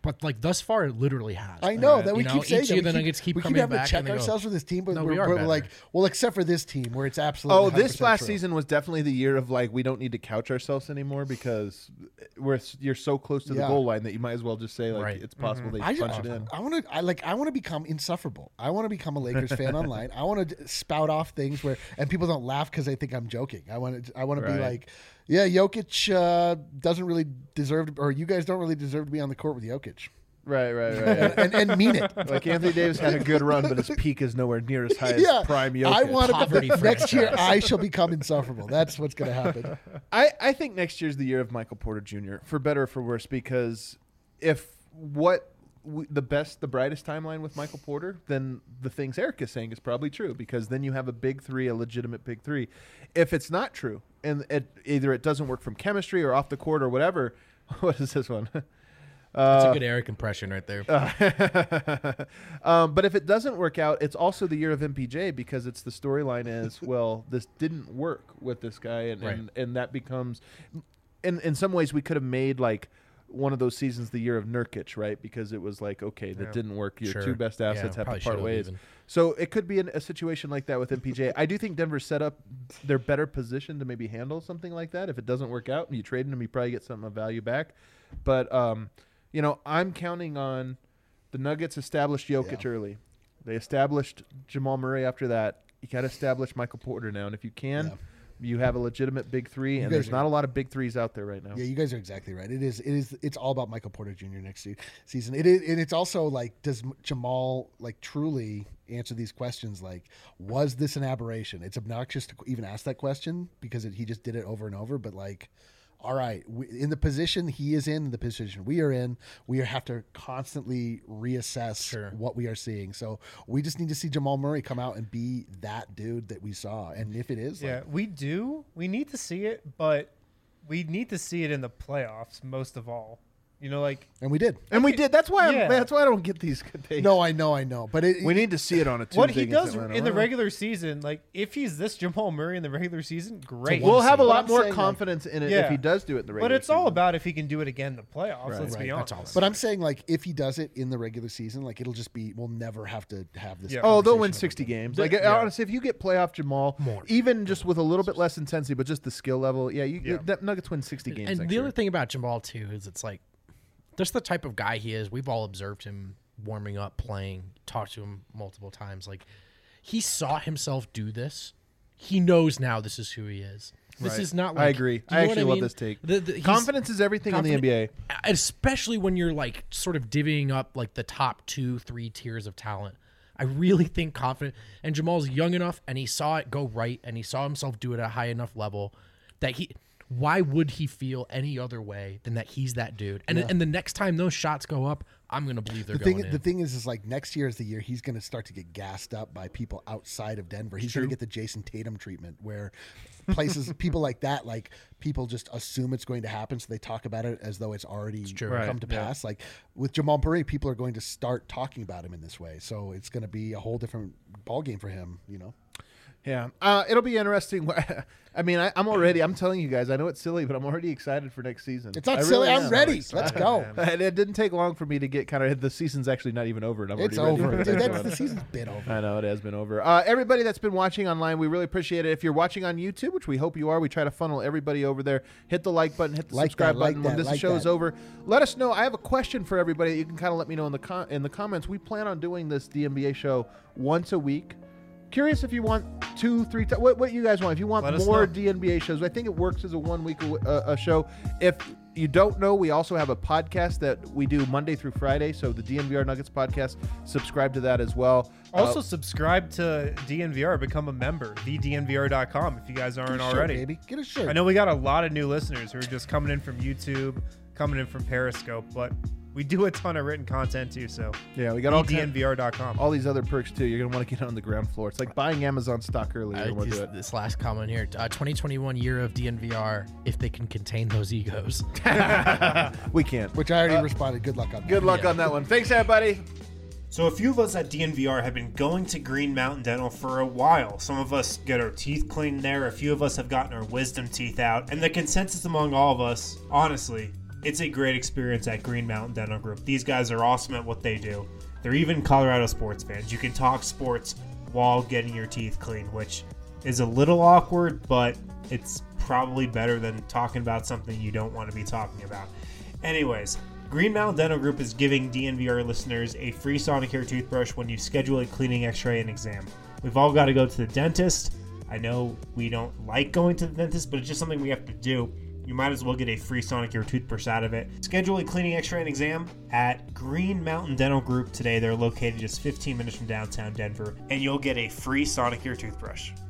S4: but like thus far, it literally has.
S5: I know that
S4: You
S5: we
S4: know,
S5: keep saying
S4: each
S5: that.
S4: year
S5: we
S4: the Nuggets keep
S5: we
S4: coming
S5: keep having
S4: back
S5: to check
S4: and they go,
S5: ourselves with this team, but
S4: "No,
S5: we're,
S4: we are
S5: we're
S4: better."
S5: like, well, except for this team where it's absolutely.
S3: Oh,
S5: one hundred
S3: this
S5: percent
S3: last
S5: true.
S3: season was definitely the year of like we don't need to couch ourselves anymore because we're you're so close to the
S5: Yeah.
S3: goal line that you might as well just say like
S4: Right.
S3: it's possible
S5: I,
S3: they punch it in.
S5: I want to. I like. I want to become insufferable. I want to become a Lakers fan online. I want to spout off things where and people don't laugh because they think I'm joking. I want to. I want to be
S3: Right.
S5: like, yeah, Jokic uh, doesn't really deserve, to, or you guys don't really deserve to be on the court with Jokic,
S3: Right, right, right.
S5: and, and, and mean it.
S3: Like Anthony Davis had a good run, but his peak is nowhere near as high as
S5: Yeah,
S3: prime Jokic.
S5: I want
S4: Poverty
S5: to. Next year,
S4: franchise.
S5: I shall become insufferable. That's what's going to happen.
S3: I, I think next year's the year of Michael Porter Junior for better or for worse, because if what we, the best, the brightest timeline with Michael Porter, then the things Eric is saying is probably true, because then you have a big three, a legitimate big three. If it's not true, and it, either it doesn't work from chemistry or off the court or whatever, what is this one?
S4: That's
S3: Uh,
S4: a good Eric impression right there.
S3: um, but if it doesn't work out, it's also the year of M P J, because it's the storyline is, well, this didn't work with this guy, and,
S4: Right.
S3: and, and that becomes, in in some ways, we could have made like one of those seasons the year of Nurkic, right? Because it was like, okay, that
S6: Yeah.
S3: didn't work. Your
S4: Sure.
S3: two best assets
S4: Yeah,
S3: have
S4: probably
S3: to part
S4: should've
S3: ways.
S4: even.
S3: So it could be an, a situation like that with M P J. I do think Denver's set up; they're better positioned to maybe handle something like that. If it doesn't work out, and you trade him, you probably get something of value back. But um, you know, I'm counting on the Nuggets established Jokic
S5: Yeah.
S3: early. They established Jamal Murray after that. You got to establish Michael Porter now, and if you can,
S5: Yeah.
S3: you have a legitimate big three.
S5: You
S3: And
S5: guys
S3: there's
S5: are-
S3: not a lot of big threes out there right now.
S5: Yeah, you guys are exactly right. It is. It is. It's all about Michael Porter Junior next se- season. It is, and it's also like, does M- Jamal like truly answer these questions? Like, was this an aberration? It's obnoxious to even ask that question because it, he just did it over and over. But like, all right, we, in the position he is in, the position we are in, we have to constantly reassess
S4: Sure.
S5: what we are seeing. So we just need to see Jamal Murray come out and be that dude that we saw. And if it is,
S6: Yeah,
S5: like,
S6: we do. We need to see it, but we need to see it in the playoffs most of all. You know, like
S5: and we did.
S3: And we did. That's why.
S6: Yeah.
S3: I'm, that's why I don't get these good days.
S5: No, I know, I know, but it,
S3: we need to see it on a Tuesday.
S6: what he
S3: against
S6: does
S3: Atlanta.
S6: in the
S3: Well,
S6: regular season, like if he's this Jamal Murray in the regular season, great.
S3: We'll have a
S5: But
S3: lot
S5: I'm
S3: more
S5: saying, like-
S3: confidence in it
S6: Yeah.
S3: if he does do it in the regular
S6: But it's all
S3: season.
S6: about if he can do it again in the playoffs.
S3: Right.
S6: Let's
S4: Right,
S6: be
S4: that's
S6: honest.
S5: But I'm saying, like, if he does it in the regular season, like, it'll just be, we'll never have to have this.
S6: Yeah.
S3: Oh, they'll
S5: conversation
S3: win
S5: about
S3: sixty
S5: that.
S3: games. Like
S6: Yeah.
S3: honestly, if you get playoff Jamal,
S4: More.
S3: even just with a little bit less intensity, but just the skill level, yeah, you
S6: Yeah.
S3: that Nuggets win sixty games.
S4: And
S3: next
S4: the
S3: year.
S4: other thing about Jamal too is it's like just the type of guy he is. We've all observed him warming up, playing, talked to him multiple times. Like he saw himself do this. He knows now this is who he is. This
S3: Right.
S4: is not
S3: I
S4: like
S3: agree.
S4: do you
S3: I
S4: know what
S3: actually love
S4: mean?
S3: this take.
S4: The- the- he's
S3: Confidence is everything in the N B A.
S4: confident- especially when you're like sort of divvying up like the top two, three tiers of talent. I really think confident. And Jamal's young enough, and he saw it go right, and he saw himself do it at a high enough level that he. Why would he feel any other way than that he's that dude? And and the next time those shots go up, I'm gonna believe they're
S5: The thing,
S4: going in.
S5: the thing is, is like next year is the year he's going to start to get gassed up by people outside of Denver. He's going to get the Jason Tatum treatment, where places, people like that, like people just assume it's going to happen, so they talk about it as though it's already
S4: true.
S5: come
S6: Right,
S5: to
S6: yeah.
S5: pass. Like with Jamal Murray, people are going to start talking about him in this way, so it's going to be a whole different ball game for him. You know,
S3: Yeah, uh, it'll be interesting. I mean, I, I'm already. I'm telling you guys. I know it's silly, but I'm already excited for next season.
S5: it's not
S3: I
S5: silly.
S3: really
S5: I'm
S3: am.
S5: ready. Let's go.
S3: And it didn't take long for me to get kind of. The season's actually not even over, and I'm
S5: It's
S3: already ready
S5: over.
S3: for the
S5: Dude,
S3: next
S5: that's
S3: one.
S5: the season's been over.
S3: I know it has been over. Uh, everybody that's been watching online, we really appreciate it. If you're watching on YouTube, which we hope you are, we try to funnel everybody over there. Hit the like button, hit the
S5: Like
S3: subscribe
S5: that, like
S3: button when
S5: that,
S3: this
S5: like
S3: show is
S5: that.
S3: over. Let us know. I have a question for everybody that you can kind of let me know in the com- in the comments. We plan on doing this D N B A show once a week. Curious if you want two, three times. What, what you guys want? If you want
S6: Let us
S3: more
S6: know.
S3: D N B A shows, I think it works as a one week uh, a show. If you don't know, we also have a podcast that we do Monday through Friday. So the D N V R Nuggets podcast, subscribe to that as well.
S6: Also,
S3: Uh,
S6: subscribe to D N V R, become a member, the D N V R dot com if you guys aren't
S5: Get a shirt,
S6: already.
S5: baby. Get a shirt.
S6: I know we got a lot of new listeners who are just coming in from YouTube, coming in from Periscope, but we do a ton of written content too, so
S3: yeah, we got all
S6: D N
S3: kind,
S6: V R dot com.
S3: all these other perks too. You're gonna want to get on the ground floor. It's like buying Amazon stock early. You're
S4: Uh,
S3: gonna want to
S4: this,
S3: do it.
S4: this last comment here, uh, twenty twenty-one year of D N V R, if they can contain those egos.
S3: We can't.
S5: Which I already responded. Good luck on that.
S3: Good luck
S4: Yeah.
S3: on that one. Thanks, everybody.
S1: So a few of us at D N V R have been going to Green Mountain Dental for a while. Some of us get our teeth cleaned there. A few of us have gotten our wisdom teeth out. And the consensus among all of us, honestly, It's a great experience at Green Mountain Dental Group. These guys are awesome at what they do. They're even Colorado sports fans. You can talk sports while getting your teeth cleaned, which is a little awkward, but it's probably better than talking about something you don't want to be talking about. Anyways, Green Mountain Dental Group is giving D N V R listeners a free Sonicare toothbrush when you schedule a cleaning, x-ray, and exam. We've all got to go to the dentist. I know we don't like going to the dentist, but it's just something we have to do. You might as well get a free Sonicare toothbrush out of it. Schedule a cleaning, x-ray, and exam at Green Mountain Dental Group today. They're located just fifteen minutes from downtown Denver, and you'll get a free Sonicare toothbrush.